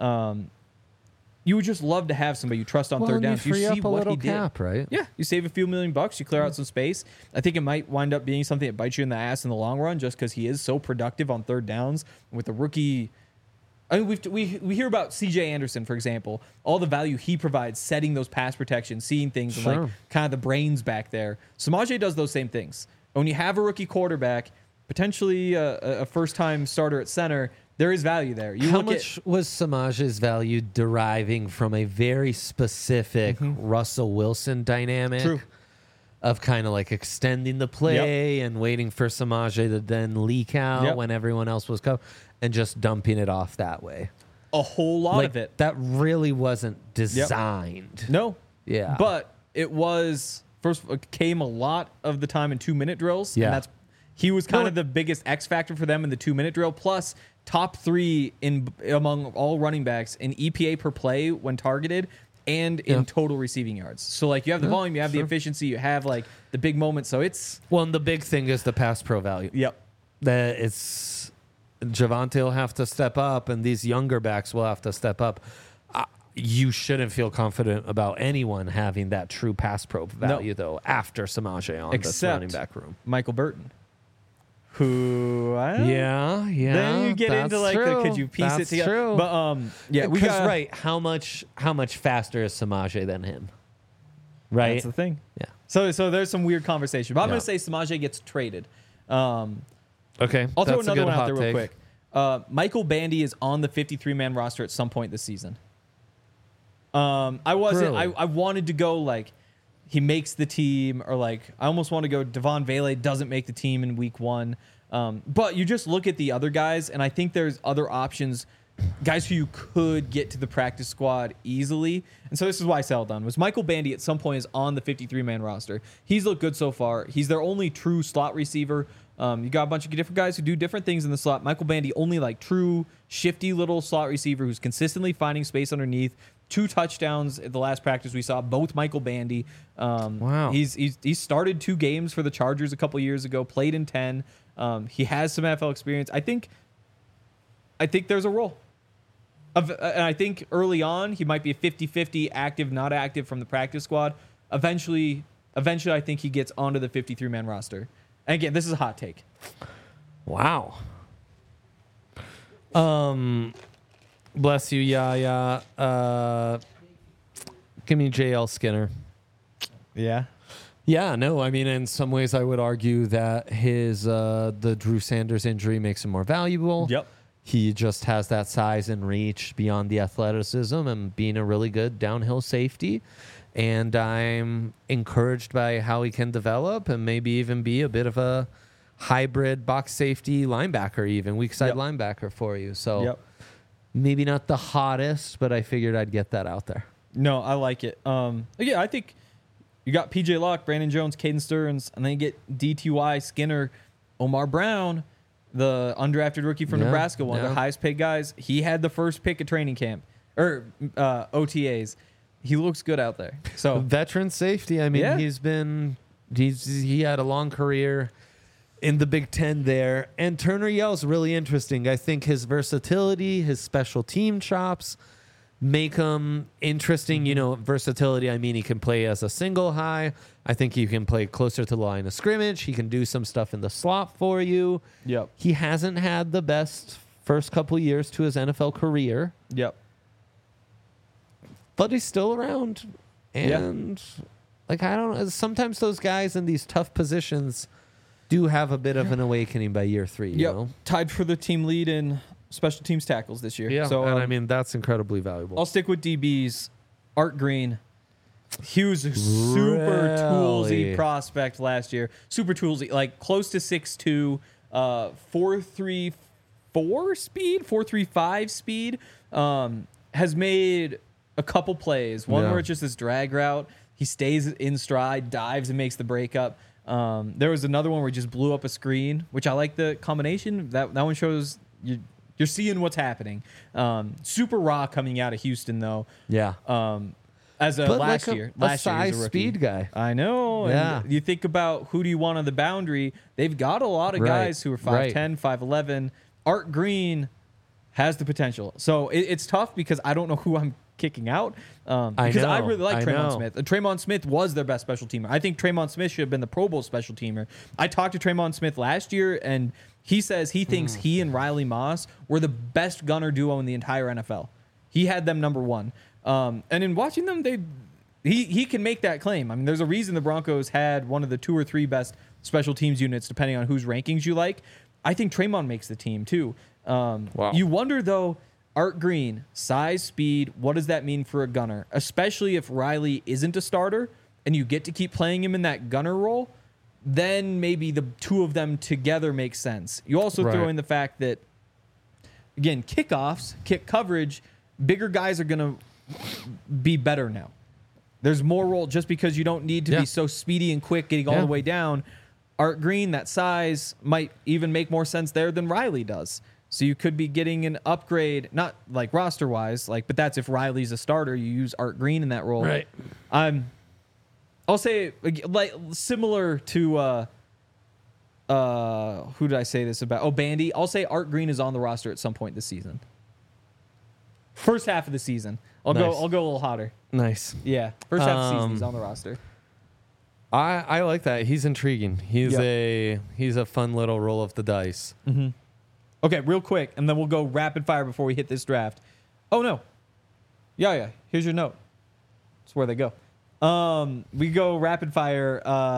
you would just love to have somebody you trust on third down. You You free see up a what little he did. cap, right? Yeah, you save a few $1,000,000, you clear out some space. I think it might wind up being something that bites you in the ass in the long run, just because he is so productive on third downs with the rookie. I mean, we hear about C.J. Anderson, for example, all the value he provides, setting those pass protections, seeing things, and like kind of the brains back there. Samaje does those same things. When you have a rookie quarterback, potentially a first-time starter at center, there is value there. How much was Samaje's value deriving from a very specific Russell Wilson dynamic of kind of like extending the play and waiting for Samaje to then leak out when everyone else was covered and just dumping it off that way? A whole lot of it. That really wasn't designed. No. Yeah. But it was, came a lot of the time in 2-minute drills. Yeah. And he was kind of the biggest X factor for them in the 2-minute drill. Plus, top 3 among all running backs in EPA per play when targeted and in total receiving yards. So, like, you have the volume, you have the efficiency, you have, like, the big moments. So it's... Well, and the big thing is the pass pro value. Yep. That it's... Javonte will have to step up, and these younger backs will have to step up. You shouldn't feel confident about anyone having that true pass pro value, though, after Samaje on this running back room. Michael Burton. Who? Yeah. Then you get into like, could you piece it together? True. But we got right. How much faster is Samaje than him? Right. That's the thing. Yeah. So there's some weird conversation, but I'm going to say Samaje gets traded. Okay. I'll throw another one out there real quick. Michael Bandy is on the 53-man roster at some point this season. I wasn't. Really? I wanted to go like he makes the team, or like I almost want to go Devon Vele doesn't make the team in week 1. But you just look at the other guys, and I think there's other options, guys who you could get to the practice squad easily. And so this is why I settled on was Michael Bandy at some point is on the 53-man roster. He's looked good so far. He's their only true slot receiver. You got a bunch of different guys who do different things in the slot. Michael Bandy, only like true shifty little slot receiver who's consistently finding space underneath. 2 touchdowns at the last practice we saw, both Michael Bandy. Wow. He started 2 games for the Chargers a couple years ago, played in 10. He has some NFL experience. I think there's a role. And I think early on he might be a 50-50 active, not active from the practice squad. Eventually I think he gets onto the 53-man roster. And again, this is a hot take. Wow. Bless you, Yaya. Give me JL Skinner. Yeah. Yeah, no, I mean, in some ways I would argue that the Drew Sanders injury makes him more valuable. Yep. He just has that size and reach beyond the athleticism and being a really good downhill safety. And I'm encouraged by how he can develop and maybe even be a bit of a hybrid box safety linebacker, even weak side linebacker for you. So maybe not the hottest, but I figured I'd get that out there. No, I like it. Yeah, I think you got PJ Locke, Brandon Jones, Caden Stearns, and then you get DTY, Skinner, Omar Brown, the undrafted rookie from Nebraska, one of the highest paid guys. He had the first pick at training camp or OTAs. He looks good out there. So veteran safety. I mean, he had a long career in the Big Ten there. And Turner Yell's really interesting. I think his versatility, his special team chops make him interesting. You know, versatility, I mean, he can play as a single high. I think he can play closer to the line of scrimmage. He can do some stuff in the slot for you. Yep. He hasn't had the best first couple years to his NFL career. Yep. But he's still around. And like, I don't know. Sometimes those guys in these tough positions do have a bit of an awakening by year 3. You know? Tied for the team lead in special teams tackles this year. Yeah. So, and I mean, that's incredibly valuable. I'll stick with DBs. Art Green. He was a super toolsy prospect last year. Super toolsy. Like close to 6'2", 4.34 speed, 4.35 speed. Has made a couple plays. One where it's just this drag route. He stays in stride, dives, and makes the breakup. There was another one where he just blew up a screen, which I like the combination. That one shows you're seeing what's happening. Super raw coming out of Houston, though. Yeah. As a but last like year. Last year he size was a rookie. speed guy. I know. Yeah. And you think about who do you want on the boundary. They've got a lot of guys who are 5'10", 5'11". Art Green has the potential. So it's tough because I don't know who I'm kicking out. Because I really like Tremont Smith. Tremont Smith was their best special teamer. I think Tremont Smith should have been the Pro Bowl special teamer. I talked to Tremont Smith last year, and he says he thinks he and Riley Moss were the best gunner duo in the entire NFL. He had them number 1. And in watching them, he can make that claim. I mean, there's a reason the Broncos had one of the 2 or 3 best special teams units, depending on whose rankings you like. I think Tremont makes the team, too. Wow. You wonder, though, Art Green, size, speed, what does that mean for a gunner? Especially if Riley isn't a starter and you get to keep playing him in that gunner role, then maybe the 2 of them together makes sense. You also throw in the fact that, again, kickoffs, kick coverage, bigger guys are going to be better now. There's more role just because you don't need to be so speedy and quick getting all the way down. Art Green, that size, might even make more sense there than Riley does. So you could be getting an upgrade, not like roster wise, but that's if Riley's a starter, you use Art Green in that role. Right. I'll say like similar to who did I say this about? Oh, Bandy. I'll say Art Green is on the roster at some point this season. First half of the season. I'll go a little hotter. Nice. Yeah. First half of the season he's on the roster. I like that. He's intriguing. He's a fun little roll of the dice. Mm-hmm. Okay, real quick, and then we'll go rapid fire before we hit this draft. Oh, no. Yeah. Here's your note. That's where they go. We go rapid fire.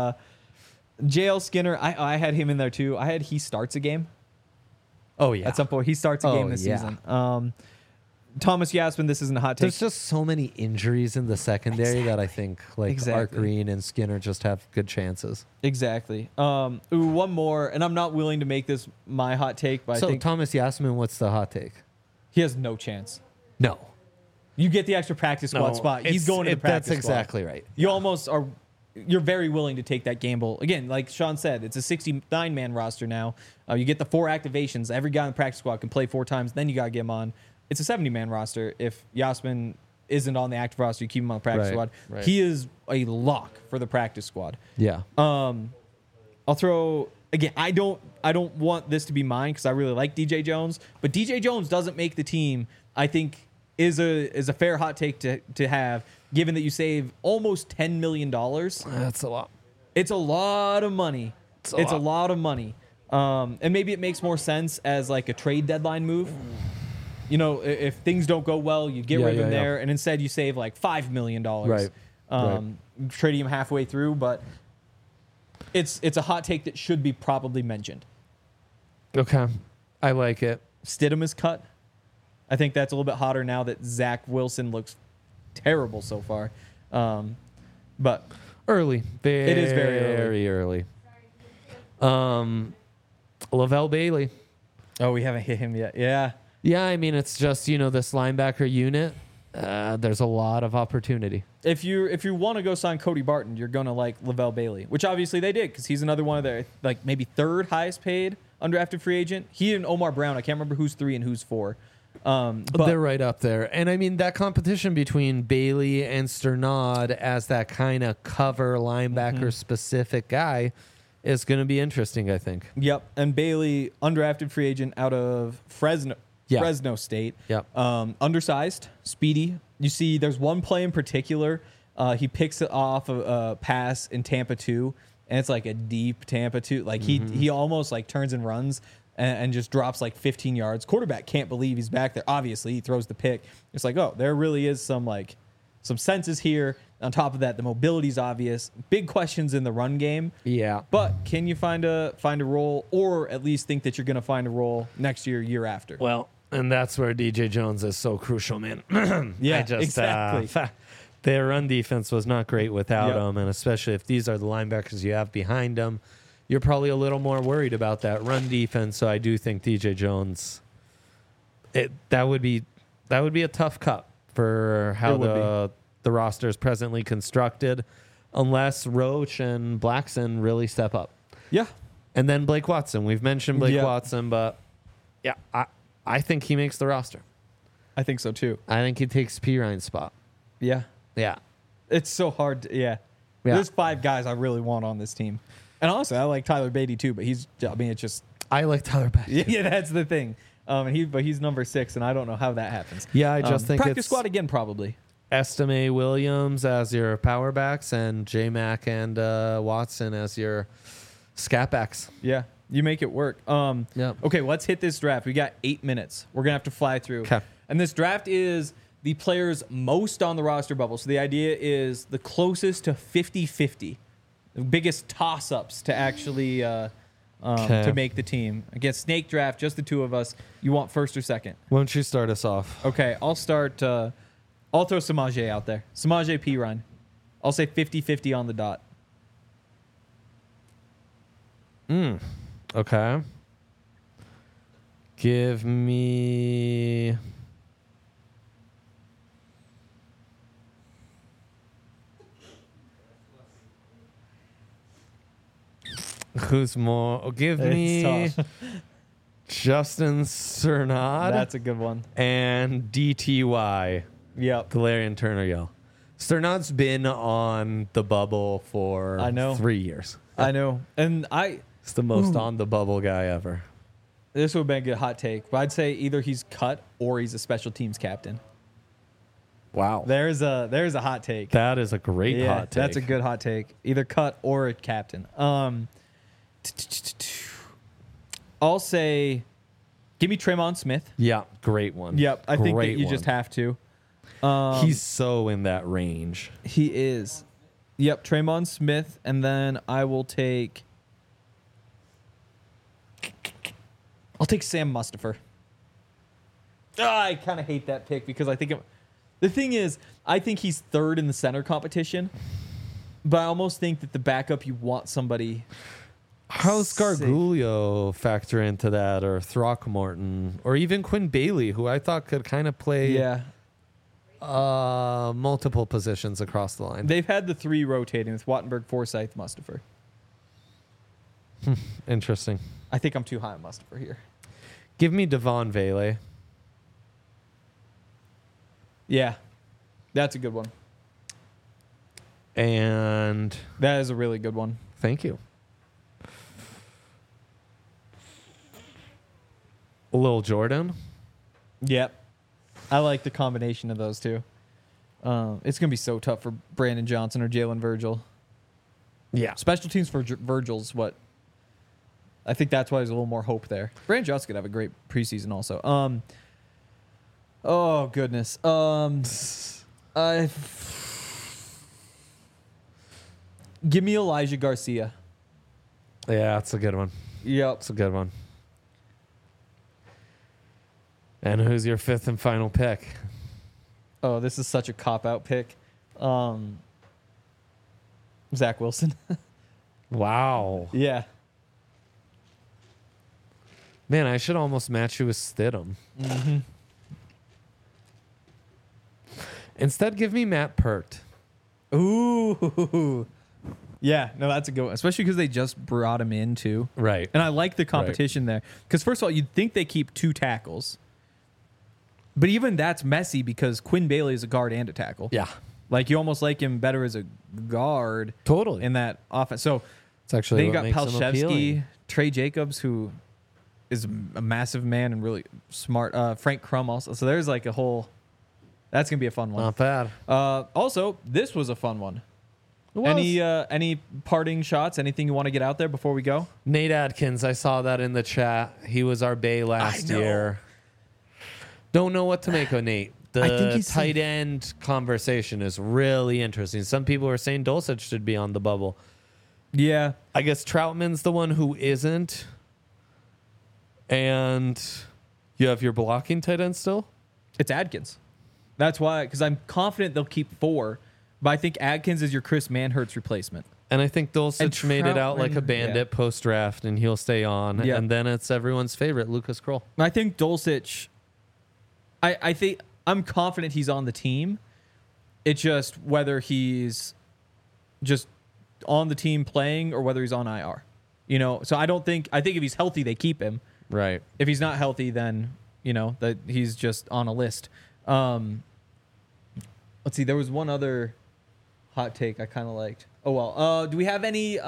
JL Skinner, I had him in there, too. I had he starts a game. Oh, yeah. At some point, he starts a game this season. Thomas Yasmin, this isn't a hot take. There's just so many injuries in the secondary that I think Art Green and Skinner just have good chances. Exactly. One more, and I'm not willing to make this my hot take, but I think Thomas Yasmin, what's the hot take? he has no chance. No. You get the extra practice squad spot. He's going to the practice That's exactly right. You almost are. You're very willing to take that gamble. Again, like Sean said, it's a 69-man roster now. You get the 4 activations. Every guy in the practice squad can play 4 times. Then you got to get him on. It's a 70-man roster. If Yasmin isn't on the active roster, you keep him on the practice squad. Right. He is a lock for the practice squad. Yeah. I'll throw again. I don't want this to be mine because I really like DJ Jones, but DJ Jones doesn't make the team. I think is a fair hot take to have, given that you save almost $10 million. That's a lot. It's a lot of money. It's a lot of money. And maybe it makes more sense as like a trade deadline move. You know, if things don't go well, you get rid of him there, and instead you save like $5 million. Right. Trading him halfway through, but it's a hot take that should be probably mentioned. Okay. I like it. Stidham is cut. I think that's a little bit hotter now that Zach Wilson looks terrible so far. But Early. It is very early. Lavelle Bailey. oh, we haven't hit him yet. Yeah. Yeah, I mean, it's just, this linebacker unit. There's a lot of opportunity. If you want to go sign Cody Barton, you're gonna like Lavelle Bailey, which obviously they did because he's another one of their like maybe 3rd highest paid undrafted free agent. He and Omar Brown. I can't remember who's 3 and who's 4. But they're right up there. And I mean, that competition between Bailey and Sternad as that kind of cover linebacker specific guy is going to be interesting, I think. Yep. And Bailey, undrafted free agent out of Fresno State. Yep. Undersized, speedy. You see, there's one play in particular. He picks it off a pass in Tampa 2, and it's like a deep Tampa 2. Like he almost like turns and runs and just drops like 15 yards. Quarterback can't believe he's back there. Obviously, he throws the pick. It's like, oh, there really is some senses here. On top of that, the mobility's obvious. Big questions in the run game. Yeah. But can you find a role, or at least think that you're going to find a role next year after? Well, and that's where DJ Jones is so crucial, man. Yeah, exactly. Their run defense was not great without him, and especially if these are the linebackers you have behind him, you're probably a little more worried about that run defense. So I do think DJ Jones, that would be a tough cut for how the roster is presently constructed, unless Roach and Blackson really step up. Yeah. And then Blake Watson. We've mentioned Blake Watson, but yeah, I think he makes the roster. I think so too. I think he takes P. Ryan's spot. Yeah. Yeah. It's so hard. There's 5 guys I really want on this team. And honestly, I like Tyler Beatty too, but it's just. I like Tyler Beatty. Yeah, that's the thing. But he's number 6, and I don't know how that happens. Yeah, I just think practice it's squad again, probably. Estime Williams as your power backs and J-Mac and Watson as your scat backs. Yeah, you make it work. Okay, let's hit this draft. We got 8 minutes. We're going to have to fly through. Okay. And this draft is the players most on the roster bubble. So the idea is the closest to 50-50. The biggest toss-ups to actually to make the team. Again, snake draft, just the 2 of us. You want first or second? Why don't you start us off? Okay, I'll start. I'll throw Samaje out there. Samaje Perine. I'll say 50-50 on the dot. Okay. Give me... Who's more? Give me Justin Cernad. That's a good one. And DTY. Yep. Galarian Turner-Yell. Cernad's been on the bubble for 3 years. I know. And It's the most on the bubble guy ever. This would have been a good hot take. But I'd say either he's cut or he's a special teams captain. Wow. There's a hot take. That is a great hot take. That's a good hot take. Either cut or a captain. I'll say, give me Tremon Smith. Yeah, great one. Yep, I think that you just have to. He's so in that range. He is. Yep, Tremon Smith, and then I'll take Sam Mustipher. I kind of hate that pick because I think the thing is, I think he's third in the center competition, but I almost think that the backup, you want somebody. How's safe. Gargulio factor into that, or Throckmorton, or even Quinn Bailey, who I thought could kind of play Yeah. multiple positions across the line? They've had the three rotating with Wattenberg, Forsyth, Mustafer. Interesting. I think I'm too high on Mustafer here. Give me Devon Vele. Yeah. That's a good one. And That is a really good one. thank you. Lil Jordan. Yep. I like the combination of those two. It's going to be so tough for Brandon Johnson or Jalen Virgil. Yeah. Special teams for Virgil's what I think that's why there's a little more hope there. Brandon Johnson could have a great preseason also. Oh goodness. Give me Elijah Garcia. Yeah, that's a good one. Yep. That's a good one. And who's your fifth and final pick? Oh, this is such a cop-out pick. Zach Wilson. Wow. Yeah. Man, I should almost match you with Stidham. Mm-hmm. Instead, give me Matt Pert. Ooh. Yeah, no, that's a good one. Especially because they just brought him in too. Right. And I like the competition there. Because first of all, you'd think they keep two tackles. But even that's messy because Quinn Bailey is a guard and a tackle. Yeah. Like you almost like him better as a guard Totally. in that offense. So It's actually then you what got makes him Palshevsky, appealing. Trey Jacobs, who is a massive man and really smart. Frank Crum also. So there's like a whole. That's gonna be a fun one. Not bad. Also, this was a fun one. It was. Any parting shots? Anything you want to get out there before we go? Nate Adkins, I saw that in the chat. He was our Bay last know. year. Don't know what to make of Nate. I think The he's tight end conversation is really interesting. Some people are saying Dulcich should be on the bubble. Yeah. I guess Troutman's the one who isn't. And you have your blocking tight end still? It's Adkins. That's why, because I'm confident they'll keep four, but I think Adkins is your Chris Manhertz replacement. And I think Dulcich And made it out like a Troutman, bandit post-draft, and he'll stay on. Yeah. And then it's everyone's favorite, Lucas Kroll. I think Dulcich, I think I'm confident he's on the team. It's just whether he's just on the team playing or whether he's on IR. You know, so I think if he's healthy, they keep him. Right. If he's not healthy, then, you know, that he's just on a list. Let's see, there was one other hot take I kind of liked. Oh, well. Do we have any...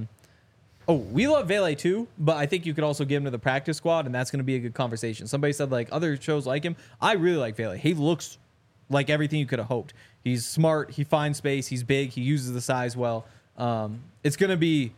we love Vele too, but I think you could also give him to the practice squad, and that's going to be a good conversation. Somebody said, like, other shows like him. I really like Vele. He looks like everything you could have hoped. He's smart. He finds space. He's big. He uses the size well. It's going to be...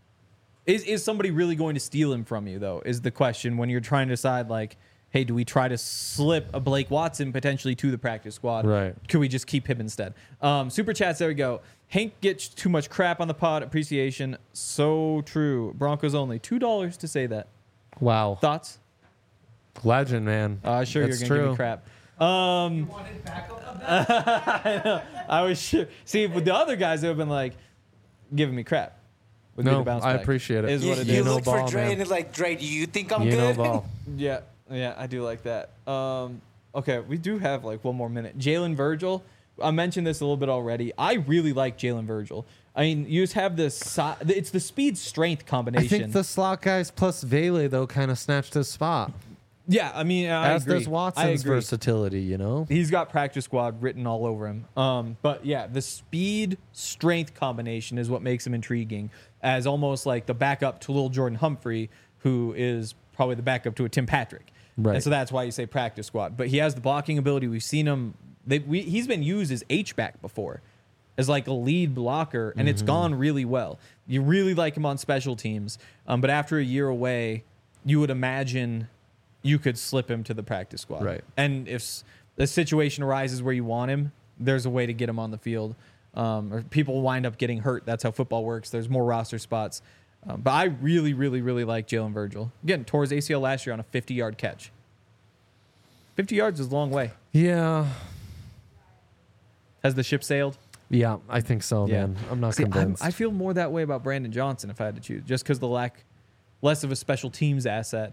Is somebody really going to steal him from you, though, is the question when you're trying to decide, like, hey, do we try to slip a Blake Watson potentially to the practice squad? Right. Could we just keep him instead? Super chats, there we go. Hank gets too much crap on the pod. Appreciation. So true. Broncos only. $2 to say that. Wow. Thoughts? Legend, man. Sure, That's you're going to give me true. crap. You wanted backup of that? I was sure. See, with the other guys, they would have been like, giving me crap. Would be No, the bounce I back. appreciate it. Is what it You You is. know look for ball, Dre man. and it's like, Dre, do you think I'm You know good? ball. Yeah, I do like that. Okay, we do have like one more minute. Jalen Virgil. I mentioned this a little bit already. I really like Jalen Virgil. I mean, you just have this. It's the speed strength combination. I think the slot guys plus Vele, though, kind of snatched his spot. Yeah, I mean, I As agree. does I Watson's agree. versatility, you know? He's got practice squad written all over him. But yeah, the speed strength combination is what makes him intriguing as almost like the backup to little Jordan Humphrey, who is probably the backup to a Tim Patrick. Right. And so that's why you say practice squad. But he has the blocking ability. We've seen him. He's been used as H-back before, as like a lead blocker, and it's gone really well. You really like him on special teams. But after a year away, you would imagine you could slip him to the practice squad. Right. And if the situation arises where you want him, there's a way to get him on the field. Or people wind up getting hurt. That's how football works. There's more roster spots. But I really, really, really like Jalen Virgil. Again, tore his ACL last year on a 50-yard catch. 50 yards is a long way. Yeah. Has the ship sailed? Yeah, I think so, man. I'm not convinced. I feel more that way about Brandon Johnson if I had to choose, just because less of a special teams asset.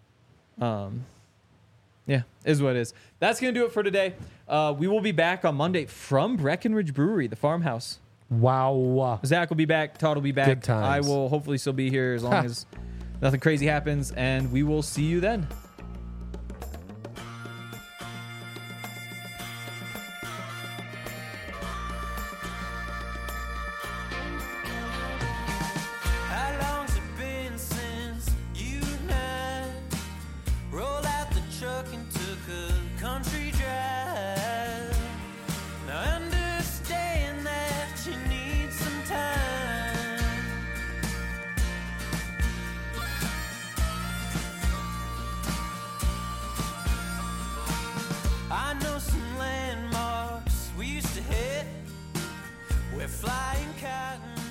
Yeah, is what it is. That's going to do it for today. We will be back on Monday from Breckenridge Brewery, the farmhouse. Wow. Zach will be back. Todd will be back. Good times. I will hopefully still be here as long as nothing crazy happens, and we will see you then. I know some landmarks we used to hit. We're flying cotton.